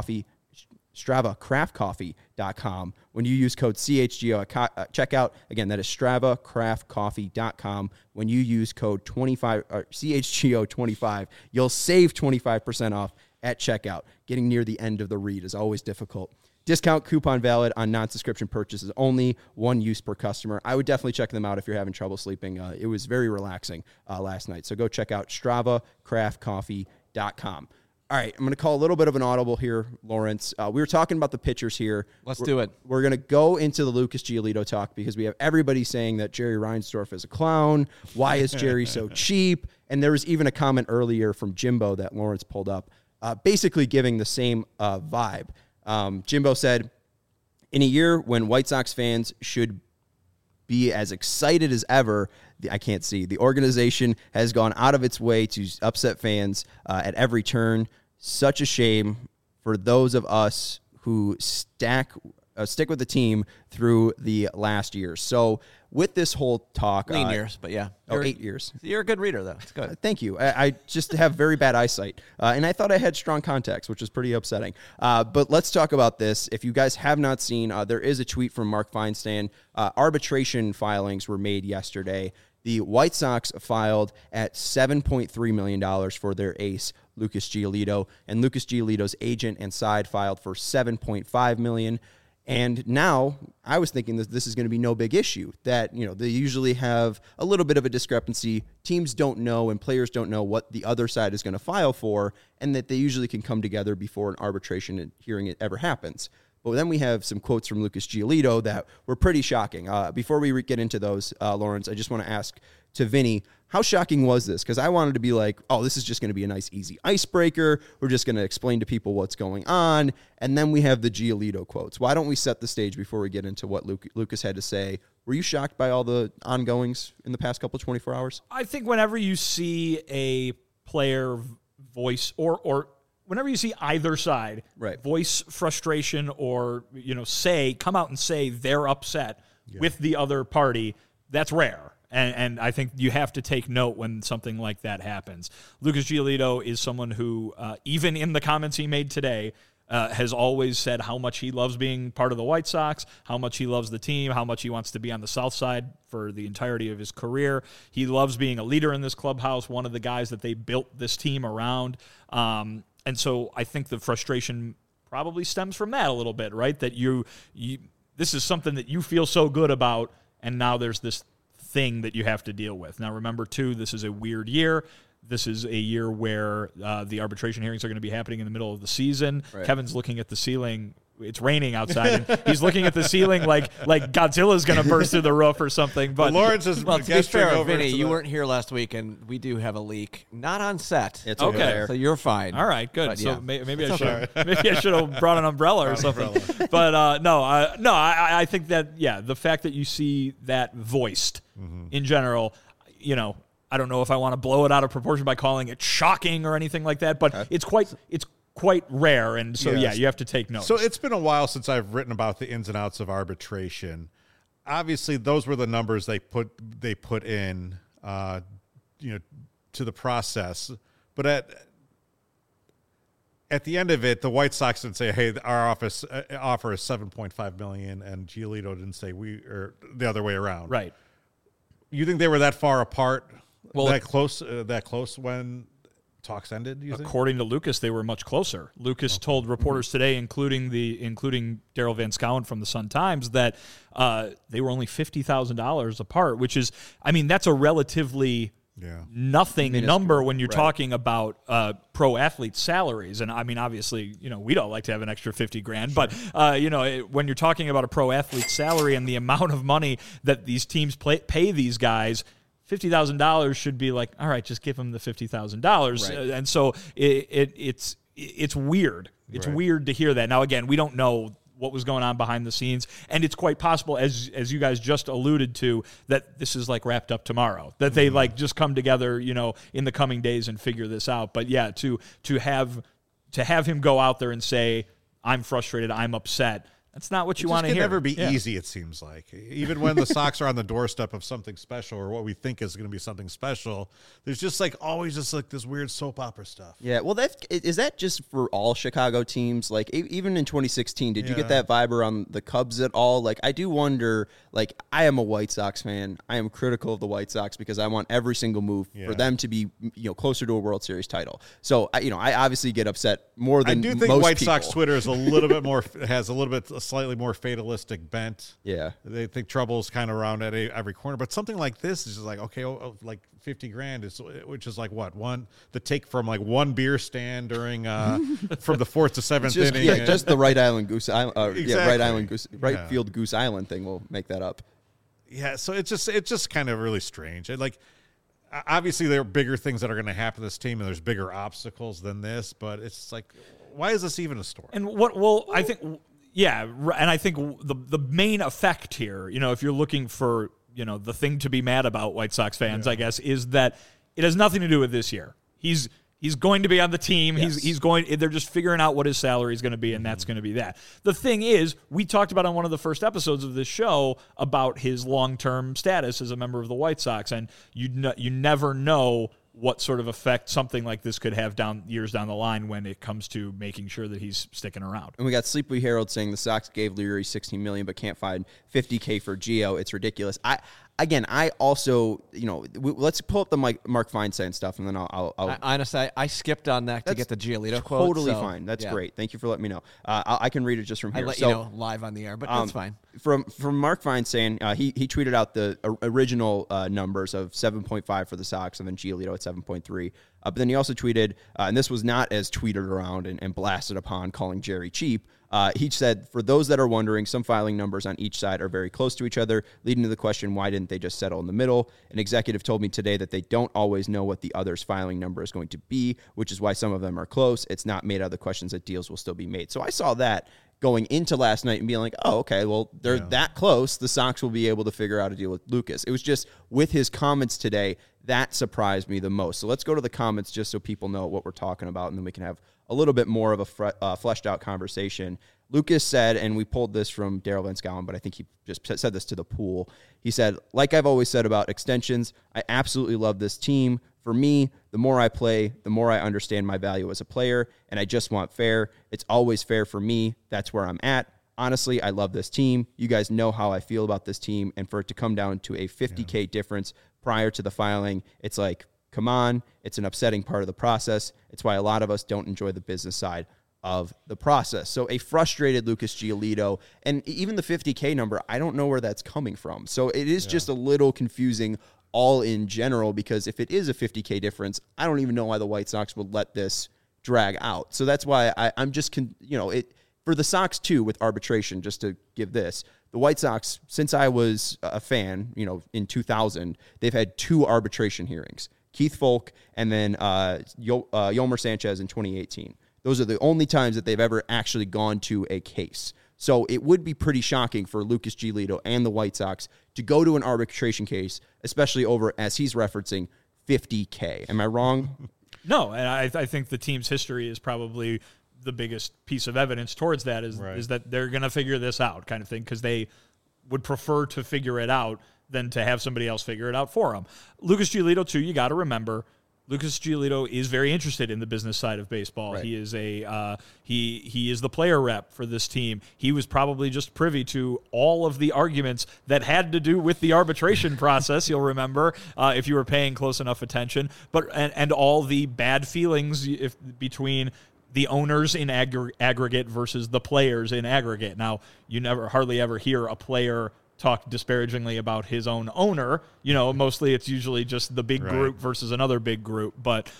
StravaCraftCoffee.com. When you use code CHGO at checkout, again, that is StravaCraftCoffee.com. When you use code CHGO25, you'll save 25% off at checkout. Getting near the end of the read is always difficult. Discount coupon valid on non-subscription purchases only, 1 use per customer. I would definitely check them out if you're having trouble sleeping. It was very relaxing last night. So go check out StravaCraftCoffee.com. All right, I'm going to call a little bit of an audible here, Lawrence. We were talking about the pitchers here. Let's do it. We're going to go into the Lucas Giolito talk because we have everybody saying that Jerry Reinsdorf is a clown. Why is Jerry so cheap? And there was even a comment earlier from Jimbo that Lawrence pulled up, basically giving the same vibe. Jimbo said, in a year when White Sox fans should be as excited as ever, the organization has gone out of its way to upset fans at every turn. Such a shame for those of us who stick with the team through the last year. So with this whole talk... Lean years, but yeah. 8 years. You're a good reader, though. It's good. Thank you. I just have very bad eyesight, and I thought I had strong contacts, which is pretty upsetting. But let's talk about this. If you guys have not seen, there is a tweet from Mark Feinstein. Arbitration filings were made yesterday. The White Sox filed at $7.3 million for their ace, Lucas Giolito, and Lucas Giolito's agent and side filed for $7.5 million. And now I was thinking that this is going to be no big issue, that, they usually have a little bit of a discrepancy. Teams don't know and players don't know what the other side is going to file for, and that they usually can come together before an arbitration hearing ever happens. But then we have some quotes from Lucas Giolito that were pretty shocking. Before we get into those, Lawrence, I just want to ask to Vinny, how shocking was this? Because I wanted to be like, oh, this is just going to be a nice, easy icebreaker. We're just going to explain to people what's going on. And then we have the Giolito quotes. Why don't we set the stage before we get into what Lucas had to say? Were you shocked by all the ongoings in the past couple 24 hours? I think whenever you see a player voice or whenever you see either side voice frustration or, come out and say they're upset with the other party, that's rare. And I think you have to take note when something like that happens. Lucas Giolito is someone who, even in the comments he made today, has always said how much he loves being part of the White Sox, how much he loves the team, how much he wants to be on the South Side for the entirety of his career. He loves being a leader in this clubhouse, one of the guys that they built this team around. And so I think the frustration probably stems from that a little bit, right? That you this is something that you feel so good about, and now there's this thing that you have to deal with. Now, remember, too, this is a weird year. This is a year where the arbitration hearings are going to be happening in the middle of the season. Right. Kevin's looking at the ceiling. it's raining outside, and he's looking at the ceiling like Godzilla's going to burst through the roof or something. But Lawrence is to be fair, Vinny, you weren't here last week, and we do have a leak, not on set. It's okay, so you're fine. All right, good. But, so yeah. maybe I should have brought an umbrella or something. But I think that the fact that you see that voiced in general, I don't know if I want to blow it out of proportion by calling it shocking or anything like that, but it's quite rare, and so you have to take note. So it's been a while since I've written about the ins and outs of arbitration. Obviously, those were the numbers they put in, to the process. But at the end of it, the White Sox didn't say, "Hey, our offer is $7.5 million," and Giolito didn't say or the other way around. Right. You think they were that far apart? Well, that close when talks ended? According to Lucas, they were much closer. Lucas told reporters today, including Daryl Van Schouwen from the Sun-Times, that they were only $50,000 apart, which is, that's a relatively nothing number when you're talking about pro athlete salaries. And obviously, we don't like to have an extra $50,000, but when you're talking about a pro athlete salary and the amount of money that these teams pay these guys, $50,000 should be like, all right, just give them the $50,000. Right. And so it's weird. It's weird to hear that. Now, again, we don't know what was going on behind the scenes, and it's quite possible, as you guys just alluded to, that this is like wrapped up tomorrow, that they just come together, in the coming days and figure this out. But yeah, to have him go out there and say, I'm frustrated, I'm upset, that's not what you want to hear. It can never be easy, it seems like. Even when the Sox are on the doorstep of something special or what we think is going to be something special, there's just always this weird soap opera stuff. Yeah, well, is that just for all Chicago teams? Like, even in 2016, did you get that vibe around the Cubs at all? Like, I do wonder, I am a White Sox fan. I am critical of the White Sox because I want every single move for them to be, closer to a World Series title. So, I obviously get upset more than most people. I do think White Sox Twitter is a little bit more, has a slightly more fatalistic bent. Yeah. They think trouble's kind of around at every corner, but something like this is just okay, like $50,000 is, which is like what? The take from one beer stand during from the 4th to 7th inning. Yeah, just the Right Island Goose Island, right field Goose Island thing will make that up. Yeah, so it's just kind of really strange. Obviously there are bigger things that are going to happen to this team, and there's bigger obstacles than this, but it's why is this even a story? And I think. Yeah, and I think the main effect here, if you're looking for, the thing to be mad about, White Sox fans, I guess, is that it has nothing to do with this year. He's going to be on the team. Yes. They're just figuring out what his salary is going to be, and that's going to be that. The thing is, we talked about on one of the first episodes of this show about his long-term status as a member of the White Sox, and you never know what sort of effect something like this could have years down the line when it comes to making sure that he's sticking around. And we got Sleepy Harold saying the Sox gave Leary $16 million but can't find $50K for Gio. It's ridiculous. I also, let's pull up the Mark Feinstein stuff, and then I'll honestly, I skipped on that to get the Giolito quote. Totally fine. That's great. Thank you for letting me know. I can read it just from here. I let you know live on the air, but that's fine. From Mark Feinstein, he tweeted out the original numbers of 7.5 for the Sox, and then Giolito at 7.3. But then he also tweeted, and this was not as tweeted around and blasted upon, calling Jerry cheap. He said, for those that are wondering, some filing numbers on each side are very close to each other, leading to the question, why didn't they just settle in the middle? An executive told me today that they don't always know what the other's filing number is going to be, which is why some of them are close. It's not made out of the questions that deals will still be made. So I saw that going into last night and being like, oh, okay, well, they're that close. The Sox will be able to figure out a deal with Lucas. It was just with his comments today, that surprised me the most. So let's go to the comments just so people know what we're talking about, and then we can have a little bit more of a fleshed out conversation. Lucas said, and we pulled this from Daryl Van Schouwen, but I think he just said this to the pool. He said, like I've always said about extensions, I absolutely love this team. For me, the more I play, the more I understand my value as a player, and I just want fair. It's always fair for me. That's where I'm at. Honestly, I love this team. You guys know how I feel about this team, and for it to come down to a $50K difference prior to the filing, it's like, come on, it's an upsetting part of the process. It's why a lot of us don't enjoy the business side of the process. So a frustrated Lucas Giolito, and even the $50K number, I don't know where that's coming from. So it is just a little confusing all in general, because if it is a $50K difference, I don't even know why the White Sox would let this drag out. So that's why I'm just, For the Sox, too, with arbitration, just to give this, the White Sox, since I was a fan, in 2000, they've had 2 arbitration hearings. Keith Folk and then Yolmer Sanchez in 2018. Those are the only times that they've ever actually gone to a case. So it would be pretty shocking for Lucas Giolito and the White Sox to go to an arbitration case, especially over, as he's referencing, $50K. Am I wrong? No, and I think the team's history is probably the biggest piece of evidence towards that is that they're going to figure this out kind of thing, because they would prefer to figure it out than to have somebody else figure it out for them. Lucas Giolito, too, you got to remember, Lucas Giolito is very interested in the business side of baseball. Right. He is he is the player rep for this team. He was probably just privy to all of the arguments that had to do with the arbitration process. You'll remember if you were paying close enough attention, and all the bad feelings between the owners in aggregate versus the players in aggregate. Now, you hardly ever hear a player talk disparagingly about his own owner. Mostly it's usually just the big group versus another big group. But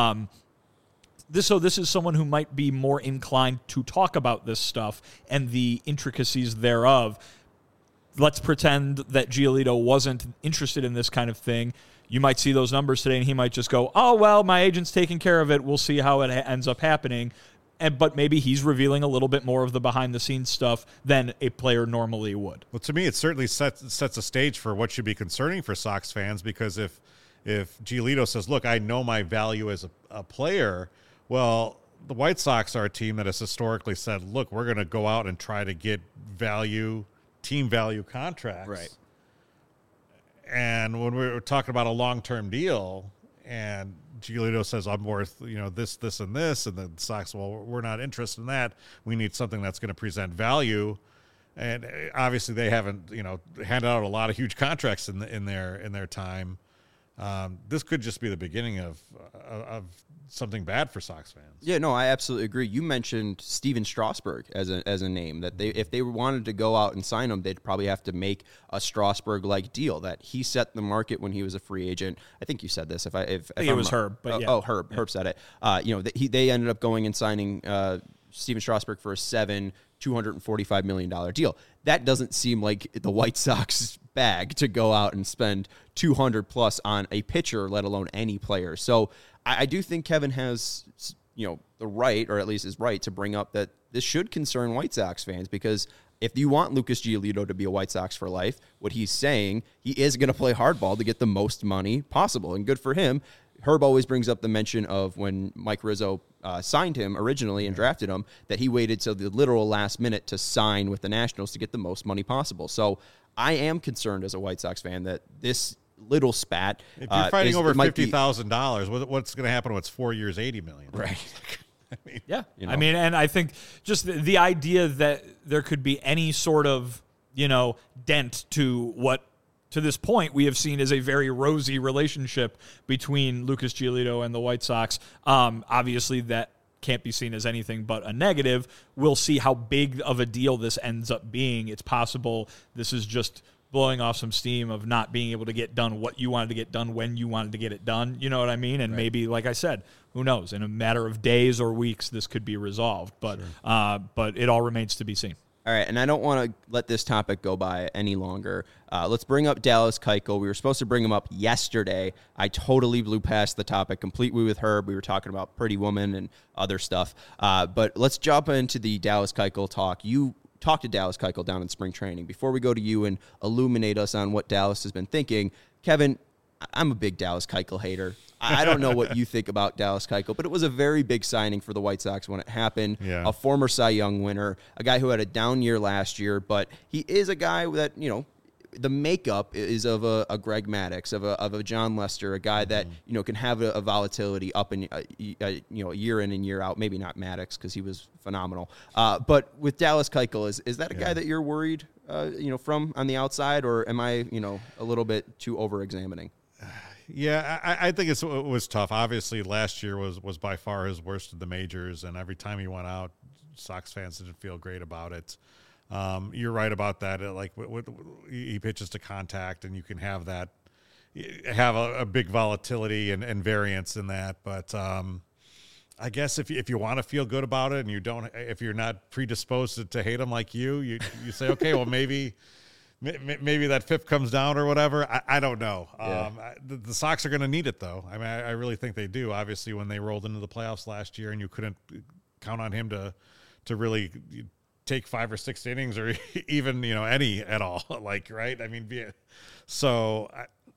this is someone who might be more inclined to talk about this stuff and the intricacies thereof. Let's pretend that Giolito wasn't interested in this kind of thing. You might see those numbers today, and he might just go, "Oh, well, my agent's taking care of it. We'll see how it ends up happening." But maybe he's revealing a little bit more of the behind-the-scenes stuff than a player normally would. Well, to me, it certainly sets a stage for what should be concerning for Sox fans, because if Giolito says, "Look, I know my value as a player," well, the White Sox are a team that has historically said, "Look, we're going to go out and try to get team value contracts." Right. And when we're talking about a long-term deal, and Giolito says, "I'm worth, this, and this," and the Sox, "Well, we're not interested in that. We need something that's going to present value." And obviously, they haven't, handed out a lot of huge contracts in their time. This could just be the beginning of something bad for Sox fans. Yeah, no, I absolutely agree. You mentioned Steven Strasburg as a name that if they wanted to go out and sign him, they'd probably have to make a Strasburg-like deal that he set the market when he was a free agent. I think you said this. I think it was Herb. But yeah. Oh, Herb. Yeah. Herb said it. They ended up going and signing Steven Strasburg for a $245 million deal. That doesn't seem like the White Sox bag to go out and spend $200 plus on a pitcher, let alone any player. So I do think Kevin has, the right, or at least is right, to bring up that this should concern White Sox fans, because if you want Lucas Giolito to be a White Sox for life, what he's saying, he is going to play hardball to get the most money possible, and good for him. Herb always brings up the mention of when Mike Rizzo signed him originally and drafted him, that he waited till the literal last minute to sign with the Nationals to get the most money possible. So I am concerned as a White Sox fan that this little spat. If you're fighting over $50,000, what's going to happen when it's 4 years, $80 million? Right. And I think just the idea that there could be any sort of, dent to what, to this point, we have seen as a very rosy relationship between Lucas Giolito and the White Sox. Obviously, that can't be seen as anything but a negative. We'll see how big of a deal this ends up being. It's possible this is just blowing off some steam of not being able to get done what you wanted to get done when you wanted to get it done. You know what I mean? And maybe, like I said, who knows? In a matter of days or weeks, this could be resolved. But but it all remains to be seen. All right, and I don't want to let this topic go by any longer. Let's bring up Dallas Keuchel. We were supposed to bring him up yesterday. I totally blew past the topic completely with Herb. We were talking about Pretty Woman and other stuff. But let's jump into the Dallas Keuchel talk. You talked to Dallas Keuchel down in spring training. Before we go to you and illuminate us on what Dallas has been thinking, Kevin, I'm a big Dallas Keuchel hater. I don't know what you think about Dallas Keuchel, but it was a very big signing for the White Sox when it happened. Yeah. A former Cy Young winner, a guy who had a down year last year, but he is a guy that, the makeup is of a Greg Maddux, of a John Lester, a guy that, can have a volatility up in, year in and year out. Maybe not Maddux because he was phenomenal. But with Dallas Keuchel, is that a guy that you're worried, from on the outside, or am I, a little bit too over-examining? Yeah, I think it was tough. Obviously, last year was by far his worst of the majors, and every time he went out, Sox fans didn't feel great about it. You're right about that. He pitches to contact, and you can have a big volatility and variance in that. But I guess if you want to feel good about it and if you're not predisposed to hate him like you say, okay, well, maybe that fifth comes down or whatever. I don't know. Yeah. The Sox are going to need it, though. I mean, I really think they do. Obviously, when they rolled into the playoffs last year and you couldn't count on him to really take 5 or 6 innings or even, any at all. Like, right? I mean, so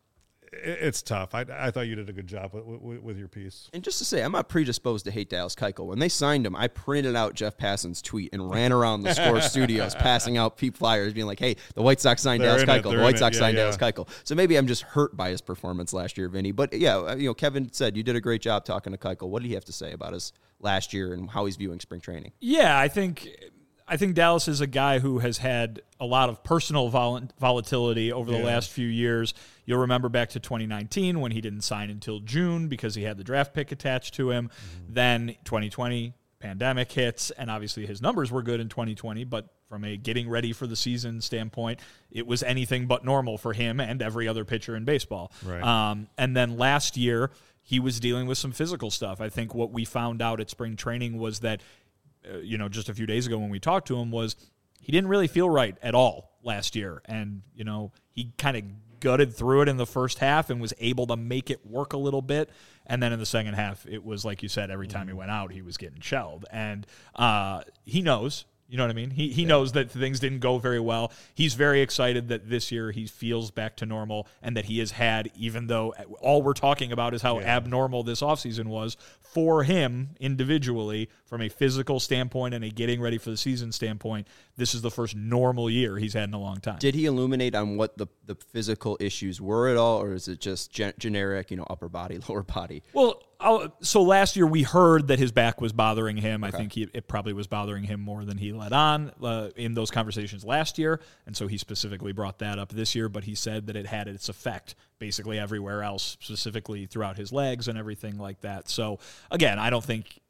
it's tough. I thought you did a good job with your piece. And just to say, I'm not predisposed to hate Dallas Keuchel. When they signed him, I printed out Jeff Passan's tweet and ran around the Score studios passing out peep flyers being like, hey, the White Sox signed Dallas Keuchel. The White Sox signed Dallas Keuchel. So maybe I'm just hurt by his performance last year, Vinny. But, yeah, Kevin said you did a great job talking to Keuchel. What did he have to say about his last year and how he's viewing spring training? Yeah, I think Dallas is a guy who has had a lot of personal volatility over the last few years. You'll remember back to 2019 when he didn't sign until June because he had the draft pick attached to him. Mm-hmm. Then 2020, pandemic hits, and obviously his numbers were good in 2020, but from a getting ready for the season standpoint, it was anything but normal for him and every other pitcher in baseball. Right. And then last year, he was dealing with some physical stuff. I think what we found out at spring training was that just a few days ago when we talked to him was he didn't really feel right at all last year. And, he kind of gutted through it in the first half and was able to make it work a little bit. And then in the second half, it was like you said, every time he went out, he was getting shelled. And he knows. You know what I mean? He knows that things didn't go very well. He's very excited that this year he feels back to normal and that he has had, even though all we're talking about is how abnormal this offseason was, for him individually, from a physical standpoint and a getting ready for the season standpoint, this is the first normal year he's had in a long time. Did he illuminate on what the physical issues were at all, or is it just generic, upper body, lower body? Well, so last year we heard that his back was bothering him. Okay. I think it probably was bothering him more than he let on in those conversations last year, and so he specifically brought that up this year, but he said that it had its effect basically everywhere else, specifically throughout his legs and everything like that. So, again, I don't think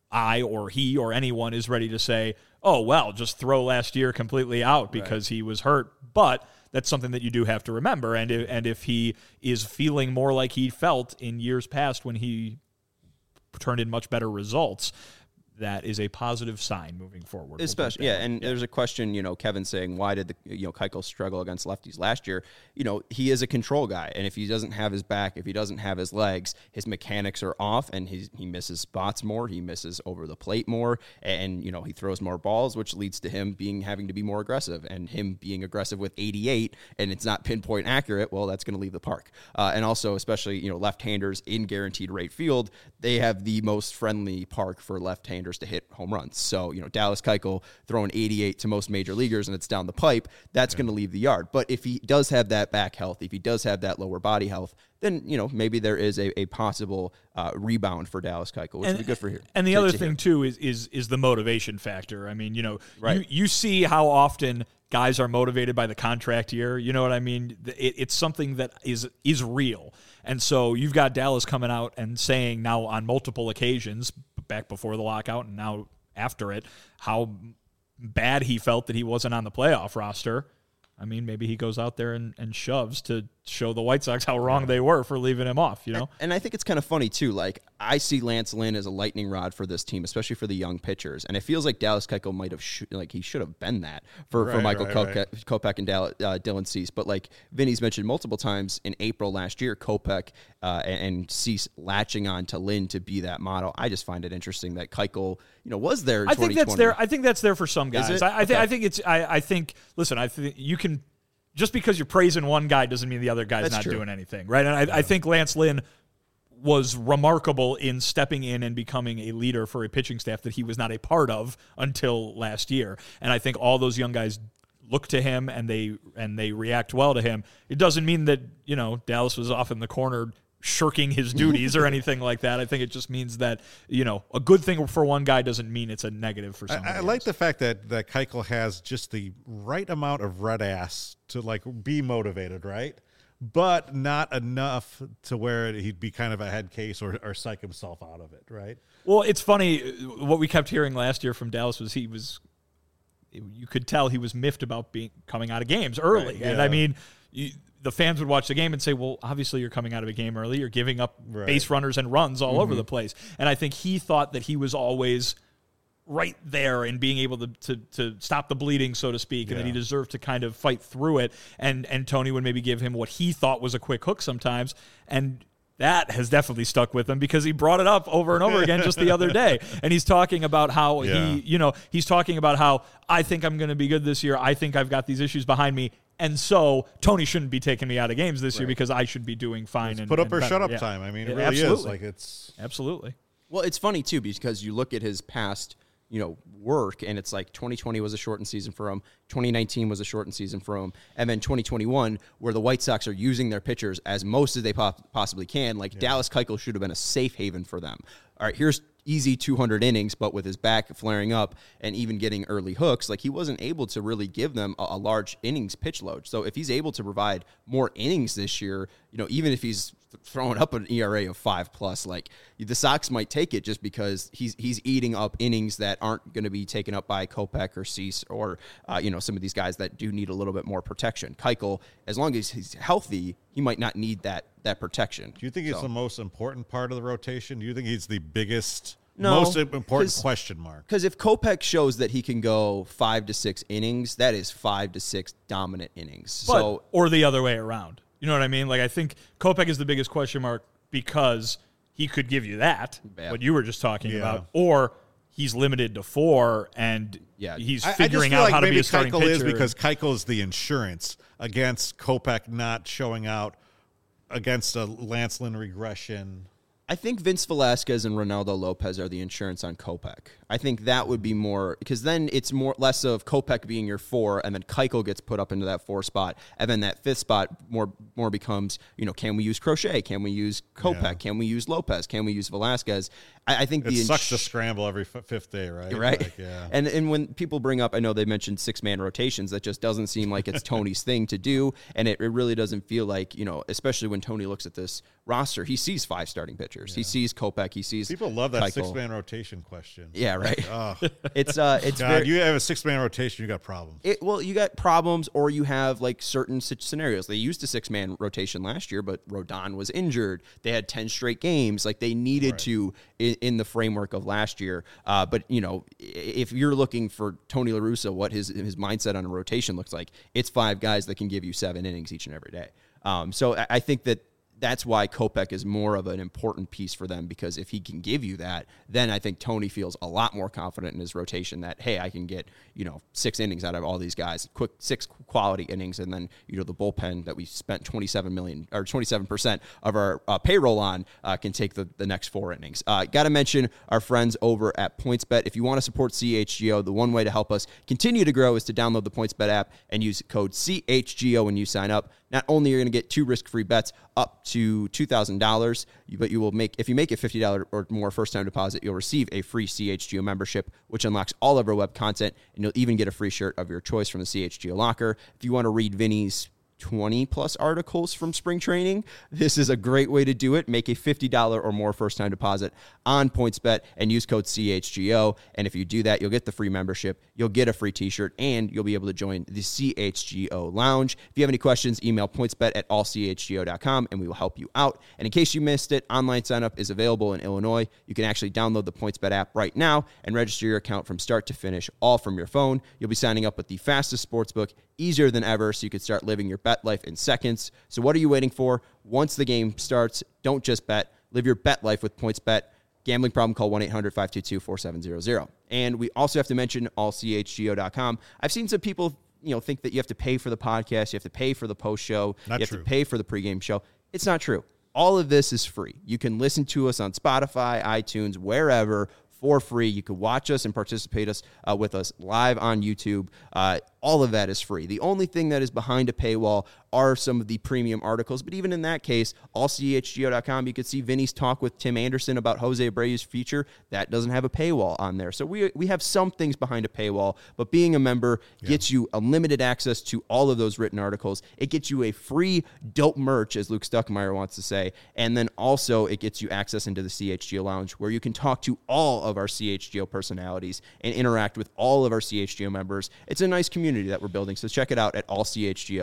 I or he or anyone is ready to say, oh, well, just throw last year completely out because he was hurt, but that's something that you do have to remember. And if he is feeling more like he felt in years past when he turned in much better results, that is a positive sign moving forward. Especially, there's a question, Kevin saying, why did Keuchel struggle against lefties last year? He is a control guy, and if he doesn't have his back, if he doesn't have his legs, his mechanics are off, and he misses spots more, he misses over the plate more, and, he throws more balls, which leads to him having to be more aggressive, and him being aggressive with 88, and it's not pinpoint accurate, well, that's going to leave the park. And also, especially, left-handers in guaranteed rate field, they have the most friendly park for left-handers to hit home runs. So, Dallas Keuchel throwing 88 to most major leaguers and it's down the pipe, that's going to leave the yard. But if he does have that back health, if he does have that lower body health, then, maybe there is a possible rebound for Dallas Keuchel, which would be good for here. And the other thing, too, is the motivation factor. I mean, you see how often guys are motivated by the contract year. You know what I mean? It's something that is real. And so you've got Dallas coming out and saying now on multiple occasions, back before the lockout and now after it, how bad he felt that he wasn't on the playoff roster. I mean, maybe he goes out there and shoves to show the White Sox how wrong they were for leaving him off, And I think it's kind of funny, too. Like, I see Lance Lynn as a lightning rod for this team, especially for the young pitchers. And it feels like Dallas Keuchel might have, he should have been that for Michael Kopech and Dylan Cease. But like Vinny's mentioned multiple times, in April last year, Kopech and Cease latching on to Lynn to be that model. I just find it interesting that Keuchel, was there in 2020. I think that's there for some guys. I think you can, just because you're praising one guy doesn't mean the other guy's not doing anything, right? And I think Lance Lynn was remarkable in stepping in and becoming a leader for a pitching staff that he was not a part of until last year. And I think all those young guys look to him and they react well to him. It doesn't mean that, Dallas was off in the corner shirking his duties or anything like that. I think it just means that, a good thing for one guy doesn't mean it's a negative for somebody else. I like the fact that Keuchel has just the right amount of red ass to be motivated, right? But not enough to where he'd be kind of a head case or psych himself out of it, right? Well, it's funny. What we kept hearing last year from Dallas was you could tell he was miffed about coming out of games early. Right, yeah. And I mean, the fans would watch the game and say, well, obviously you're coming out of a game early. You're giving up base runners and runs all over the place. And I think he thought that he was always right there and being able to stop the bleeding, so to speak, and that he deserved to kind of fight through it. And Tony would maybe give him what he thought was a quick hook sometimes. And that has definitely stuck with him because he brought it up over and over again just the other day. And he's talking about how he's talking about how I think I'm going to be good this year. I think I've got these issues behind me. And so Tony shouldn't be taking me out of games this year because I should be doing fine. Put up or shut up time. I mean, it really is. Like it's absolutely. Well, it's funny too because you look at his past, work, and it's like 2020 was a shortened season for him. 2019 was a shortened season for him. And then 2021, where the White Sox are using their pitchers as most as they possibly can, Dallas Keuchel should have been a safe haven for them. All right, here's easy 200 innings, but with his back flaring up and even getting early hooks, he wasn't able to really give them a large innings pitch load. So if he's able to provide more innings this year, even if he's throwing up an ERA of 5+, the Sox might take it just because he's eating up innings that aren't going to be taken up by Kopech or Cease or some of these guys that do need a little bit more protection. Keuchel, as long as he's healthy, he might not need that protection. Do you think he's the most important part of the rotation? Do you think he's the biggest, most important question mark? Because if Kopech shows that he can go 5 to 6 innings, that is 5 to 6 dominant innings. Or the other way around. You know what I mean? I think Kopech is the biggest question mark because he could give you that, what you were just talking about, or he's limited to 4 and he's figuring out how to be a starting pitcher. Is because Keuchel is the insurance against Kopech not showing out against a Lance Lynn regression. I think Vince Velasquez and Ronaldo Lopez are the insurance on Kopech. I think that would be more, because then it's less of Kopech being your 4, and then Keuchel gets put up into that 4 spot, and then that 5th spot more becomes, can we use Crochet? Can we use Kopech? Yeah. Can we use Lopez? Can we use Velasquez? I think it sucks to scramble every 5th day, right? Right. And when people bring up, I know they mentioned 6-man rotations, that just doesn't seem like it's Tony's thing to do, and it really doesn't feel like, especially when Tony looks at this roster, he sees 5 starting pitchers. Yeah. He sees Kopech. He sees people love that Keuchel. 6-man rotation question. Yeah, right. It's God, you have a 6-man rotation, you got problems. You got problems, or you have certain scenarios. They used a 6-man rotation last year, but Rodon was injured. They had 10 straight games. They needed to in the framework of last year. But if you're looking for Tony La Russa, what his mindset on a rotation looks like, it's 5 guys that can give you 7 innings each and every day. So I think that's why Kopech is more of an important piece for them, because if he can give you that, then I think Tony feels a lot more confident in his rotation that, hey, I can get, 6 innings out of all these guys, 6 quality innings, and then, the bullpen that we spent $27% of our payroll on can take the next 4 innings. Got to mention our friends over at PointsBet. If you want to support CHGO, the one way to help us continue to grow is to download the PointsBet app and use code CHGO when you sign up. Not only are you going to get 2 risk-free bets up to $2,000, but you will if you make a $50 or more first-time deposit, you'll receive a free CHGO membership, which unlocks all of our web content, and you'll even get a free shirt of your choice from the CHGO locker. If you want to read Vinny's 20-plus articles from spring training, this is a great way to do it. Make a $50 or more first-time deposit on PointsBet and use code CHGO. And if you do that, you'll get the free membership, you'll get a free t-shirt, and you'll be able to join the CHGO Lounge. If you have any questions, email pointsbet@allchgo.com, and we will help you out. And in case you missed it, online sign-up is available in Illinois. You can actually download the PointsBet app right now and register your account from start to finish, all from your phone. You'll be signing up with the fastest sportsbook, easier than ever, so you can start living your bet life in seconds. So what are you waiting for? Once the game starts, don't just bet. Live your bet life with PointsBet. Gambling problem, call 1-800-522-4700. And we also have to mention allchgo.com. I've seen some people, think that you have to pay for the podcast, you have to pay for the post show, you have to pay for the pregame show. It's not true. All of this is free. You can listen to us on Spotify, iTunes, wherever, for free. You can watch us and participate with us live on YouTube. All of that is free. The only thing that is behind a paywall are some of the premium articles. But even in that case, allchgo.com, you could see Vinny's talk with Tim Anderson about Jose Abreu's future. That doesn't have a paywall on there. So we have some things behind a paywall, but being a member gets you unlimited access to all of those written articles. It gets you a free dope merch, as Luke Stuckmeyer wants to say. And then also it gets you access into the CHGO Lounge, where you can talk to all of our CHGO personalities and interact with all of our CHGO members. It's a nice community that we're building, so check it out at allchgo.com.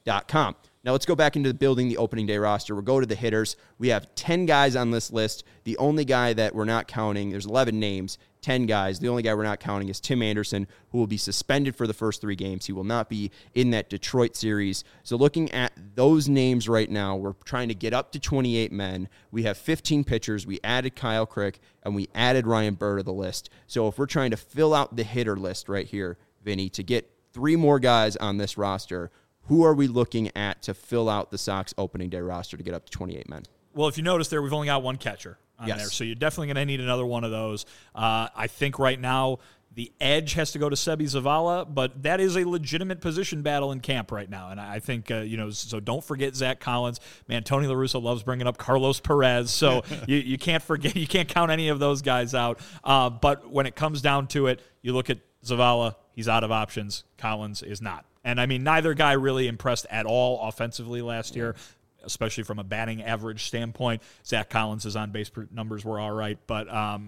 SportsGrid.com. Now let's go back into building the opening day roster. We'll go to the hitters. We have 10 guys on this list. The only guy that we're not counting, there's 11 names, 10 guys. The only guy we're not counting is Tim Anderson, who will be suspended for the first 3 games. He will not be in that Detroit series. So looking at those names right now, we're trying to get up to 28 men. We have 15 pitchers. We added Kyle Crick, and we added Ryan Burr to the list. So if we're trying to fill out the hitter list right here, Vinny, to get 3 more guys on this roster, who are we looking at to fill out the Sox opening day roster to get up to 28 men? Well, if you notice there, we've only got 1 catcher on there, so you're definitely going to need another one of those. I think right now the edge has to go to Sebi Zavala, but that is a legitimate position battle in camp right now. And I think, so don't forget Zach Collins. Man, Tony La Russa loves bringing up Carlos Perez, so you can't forget, you can't count any of those guys out. But when it comes down to it, you look at Zavala, he's out of options. Collins is not. And, I mean, neither guy really impressed at all offensively last year, especially from a batting average standpoint. Zach Collins' on-base numbers were all right. But,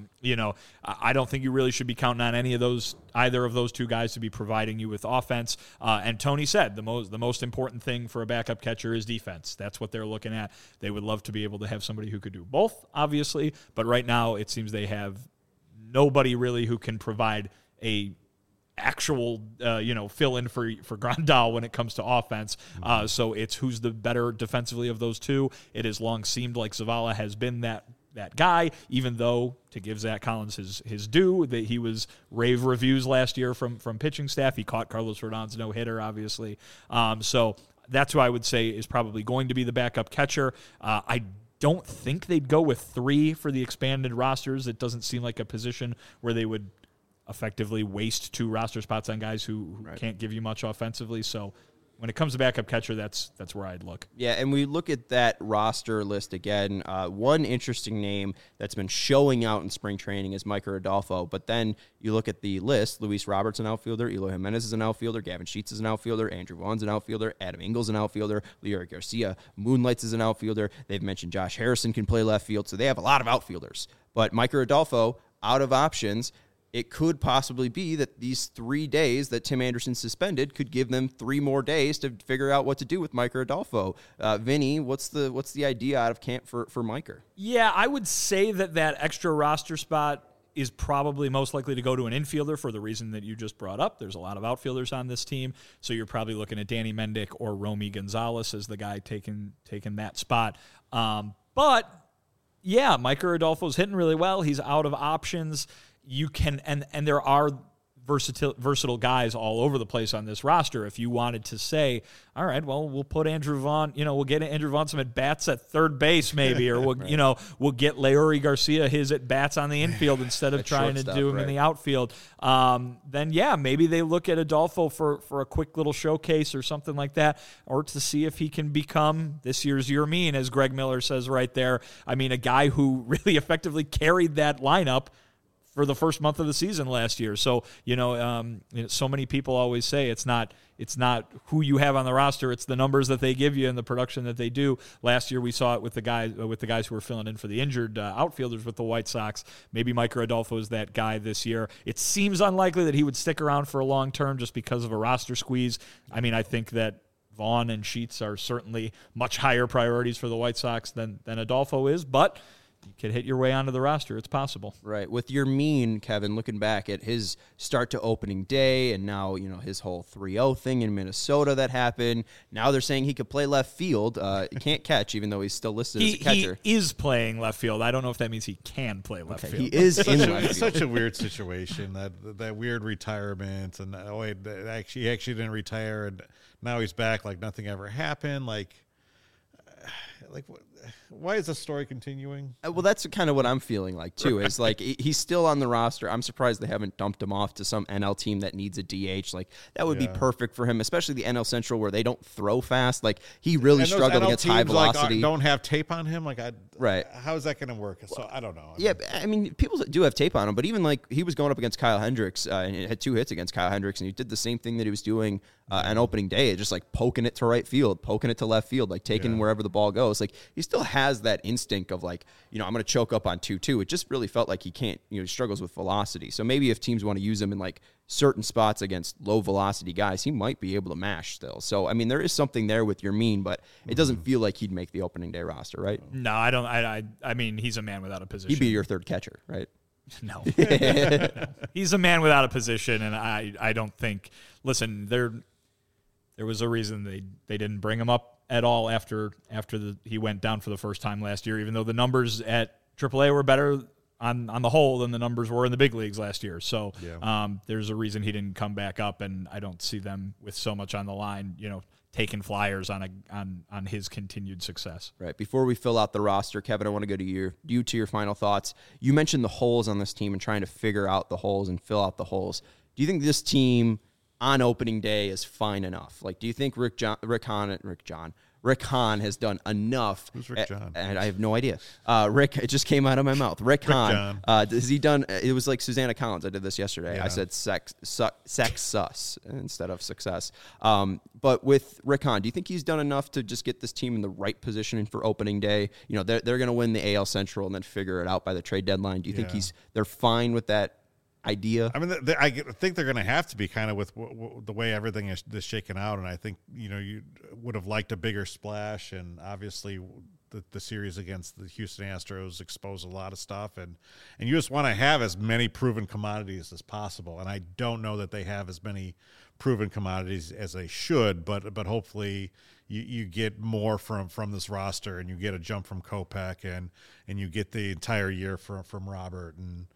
I don't think you really should be counting on either of those 2 guys to be providing you with offense. And Tony said the most important thing for a backup catcher is defense. That's what they're looking at. They would love to be able to have somebody who could do both, obviously. But right now it seems they have nobody really who can provide a actual, fill in for Grandal when it comes to offense. So it's who's the better defensively of those 2. It has long seemed like Zavala has been that guy, even though, to give Zach Collins his due, that he was rave reviews last year from pitching staff. He caught Carlos Rodon's no-hitter, obviously. So that's who I would say is probably going to be the backup catcher. I don't think they'd go with 3 for the expanded rosters. It doesn't seem like a position where they would effectively waste 2 roster spots on guys who can't give you much offensively. So when it comes to backup catcher, that's where I'd look. Yeah, and we look at that roster list again. One interesting name that's been showing out in spring training is Miker Adolfo. But then you look at the list: Luis Roberts, an outfielder; Eloy Jimenez is an outfielder; Gavin Sheets is an outfielder; Andrew Vaughn's an outfielder; Adam Engel's an outfielder; Leury Garcia moonlights as an outfielder. They've mentioned Josh Harrison can play left field, so they have a lot of outfielders. But Miker Adolfo, out of options. It could possibly be that these 3 days that Tim Anderson suspended could give them 3 more days to figure out what to do with Miker Adolfo. Vinny, what's the idea out of camp for Miker? Yeah, I would say that extra roster spot is probably most likely to go to an infielder for the reason that you just brought up. There's a lot of outfielders on this team, so you're probably looking at Danny Mendick or Romy Gonzalez as the guy taking that spot. But, yeah, Miker Adolfo's hitting really well. He's out of options. You can, and there are versatile guys all over the place on this roster. If you wanted to say, all right, well, we'll put Andrew Vaughn, we'll get Andrew Vaughn some at-bats at third base maybe, or we'll, right. We'll get Leury Garcia his at-bats on the infield instead of trying to do him in the outfield. Then, yeah, maybe they look at Adolfo for a quick little showcase or something like that, or to see if he can become this year's Yermin, as Greg Miller says right there. I mean, a guy who really effectively carried that lineup for the first month of the season last year. So, so many people always say it's not who you have on the roster, it's the numbers that they give you and the production that they do. Last year we saw it with the guys who were filling in for the injured outfielders with the White Sox. Maybe Miker Adolfo is that guy this year. It seems unlikely that he would stick around for a long term just because of a roster squeeze. I mean, I think that Vaughn and Sheets are certainly much higher priorities for the White Sox than Adolfo is, but you could hit your way onto the roster. It's possible. Right. With Yermin, Kevin, looking back at his start to opening day and now, his whole 3-0 thing in Minnesota that happened. Now they're saying he could play left field. He can't catch, even though he's still listed as a catcher. He is playing left field. I don't know if that means he can play left field. He is in left field. It's such a weird situation, that weird retirement. And, he actually didn't retire, and now he's back like nothing ever happened. Like what? Why is the story continuing? Well, that's kind of what I'm feeling like, too. Right. Is like he's still on the roster. I'm surprised they haven't dumped him off to some NL team that needs a DH. Like, that would be perfect for him, especially the NL Central where they don't throw fast. Like, he really struggled against high velocity. Don't have tape on him? Right. How is that going to work? So, I don't know. I mean, people do have tape on him, but even he was going up against Kyle Hendricks and had 2 hits against Kyle Hendricks, and he did the same thing that he was doing on opening day, just like poking it to right field, poking it to left field, like taking wherever the ball goes. Like, he's still has that instinct of like, I'm going to choke up on 2-2. It just really felt like he can't, he struggles with velocity. So maybe if teams want to use him in like certain spots against low velocity guys, he might be able to mash still. So, I mean, there is something there with Yermín, but it doesn't feel like he'd make the opening day roster, right? No, I don't. I mean, he's a man without a position. He'd be your third catcher, right? No. He's a man without a position, and I don't think. Listen, there was a reason they didn't bring him up at all after he went down for the first time last year, even though the numbers at AAA were better on the whole than the numbers were in the big leagues last year. So there's a reason he didn't come back up, and I don't see them with so much on the line, taking flyers on his continued success. Right. Before we fill out the roster, Kevin, I want to go to your final thoughts. You mentioned the holes on this team and trying to figure out the holes and fill out the holes. Do you think this team on opening day is fine enough? Like, do you think Rick Hahn has done enough? Who's Rick John? And I have no idea. Rick, it just came out of my mouth. Rick Hahn. Has he done? It was like Susanna Collins. I did this yesterday. Yeah. I said sex instead of success. But with Rick Hahn, do you think he's done enough to just get this team in the right position for opening day? They're going to win the AL Central and then figure it out by the trade deadline. Do you think they're fine with that idea? I mean, I think they're going to have to be kind of with the way everything is shaken out, and I think you would have liked a bigger splash, and obviously the series against the Houston Astros exposed a lot of stuff, and you just want to have as many proven commodities as possible, and I don't know that they have as many proven commodities as they should, but hopefully you get more from this roster, and you get a jump from Kopech, and you get the entire year from Robert,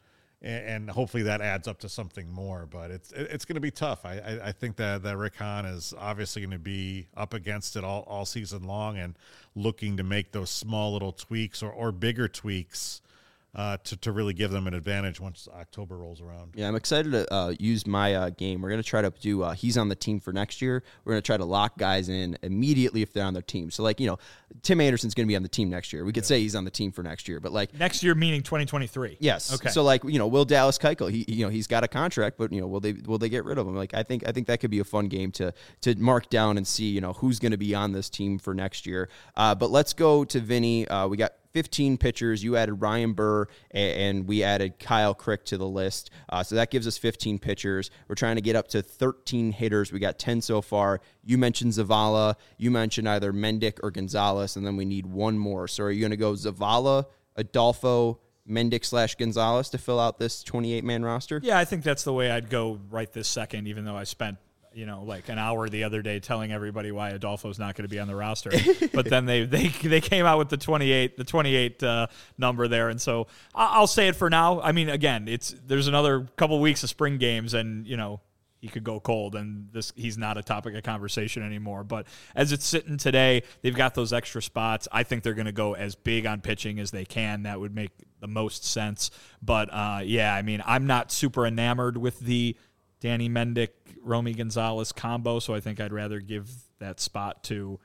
and hopefully that adds up to something more. But it's going to be tough. I think that Rick Hahn is obviously going to be up against it all season long and looking to make those small little tweaks or bigger tweaks to really give them an advantage once October rolls around. Yeah, I'm excited to use my game. We're going to try to do he's on the team for next year. We're going to try to lock guys in immediately if they're on their team. So, like, Tim Anderson's going to be on the team next year. We could say he's on the team for next year, but like next year meaning 2023. Yes. Okay. So, like, will Dallas Keuchel? He's got a contract, but will they get rid of him? Like, I think that could be a fun game to mark down and see who's going to be on this team for next year. But let's go to Vinny. We got 15 pitchers. You added Ryan Burr, and we added Kyle Crick to the list. So that gives us 15 pitchers. We're trying to get up to 13 hitters. We got 10 so far. You mentioned Zavala. You mentioned either Mendick or Gonzalez, and then we need one more. So are you going to go Zavala, Adolfo, Mendick/Gonzalez to fill out this 28-man roster? Yeah, I think that's the way I'd go right this second, even though I spent like an hour the other day telling everybody why Adolfo's not going to be on the roster. But then they came out with the 28 number there. And so I'll say it for now. I mean, again, there's another couple weeks of spring games, and, he could go cold, and he's not a topic of conversation anymore. But as it's sitting today, they've got those extra spots. I think they're going to go as big on pitching as they can. That would make the most sense. But, I mean, I'm not super enamored with the Danny Mendick, Romy Gonzalez combo, so I think I'd rather give that spot to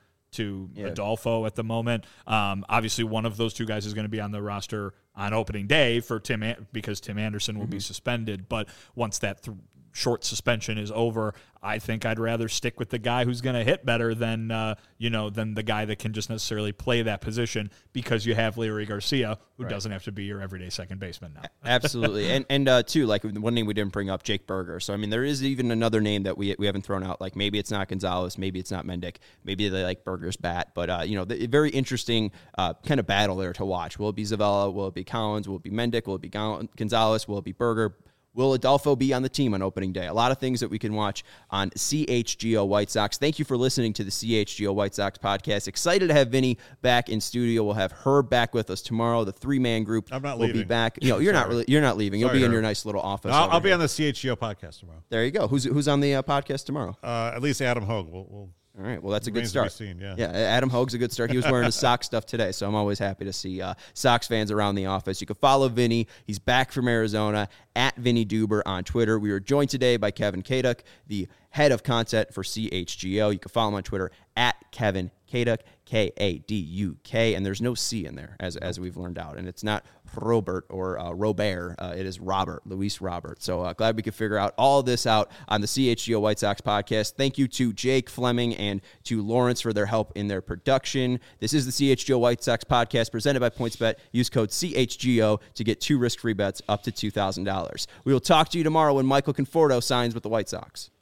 Adolfo at the moment. Obviously, one of those two guys is going to be on the roster on opening day for because Tim Anderson will be suspended. But once that short suspension is over, I think I'd rather stick with the guy who's going to hit better than than the guy that can just necessarily play that position, because you have Leury Garcia, who doesn't have to be your everyday second baseman now. Absolutely. And too, like one name we didn't bring up, Jake Burger. So, I mean, there is even another name that we haven't thrown out. Like, maybe it's not Gonzalez, maybe it's not Mendick, maybe they like Burger's bat. But, the very interesting kind of battle there to watch. Will it be Zavala? Will it be Collins? Will it be Mendick? Will it be Gonzalez? Will it be Burger? Will Adolfo be on the team on opening day? A lot of things that we can watch on CHGO White Sox. Thank you for listening to the CHGO White Sox podcast. Excited to have Vinny back in studio. We'll have Herb back with us tomorrow. The three-man group will be back. You're not leaving. You'll be in your nice little office. I'll be on the CHGO podcast tomorrow. There you go. Who's on the podcast tomorrow? At least Adam Hogue. We'll all right. Well, that's a good start. Seen, yeah, Adam Hogue's a good start. He was wearing his Sox stuff today, so I'm always happy to see Sox fans around the office. You can follow Vinny. He's back from Arizona at Vinny Duber on Twitter. We were joined today by Kevin Kaduk, the head of content for CHGO. You can follow him on Twitter at Kevin Kaduk, K-A-D-U-K, and there's no C in there, as we've learned out. And it's not Robert or Robert. It is Robert, Luis Robert. So glad we could figure out all this out on the CHGO White Sox podcast. Thank you to Jake Fleming and to Lawrence for their help in their production. This is the CHGO White Sox podcast presented by PointsBet. Use code CHGO to get 2 risk-free bets up to $2,000. We will talk to you tomorrow when Michael Conforto signs with the White Sox.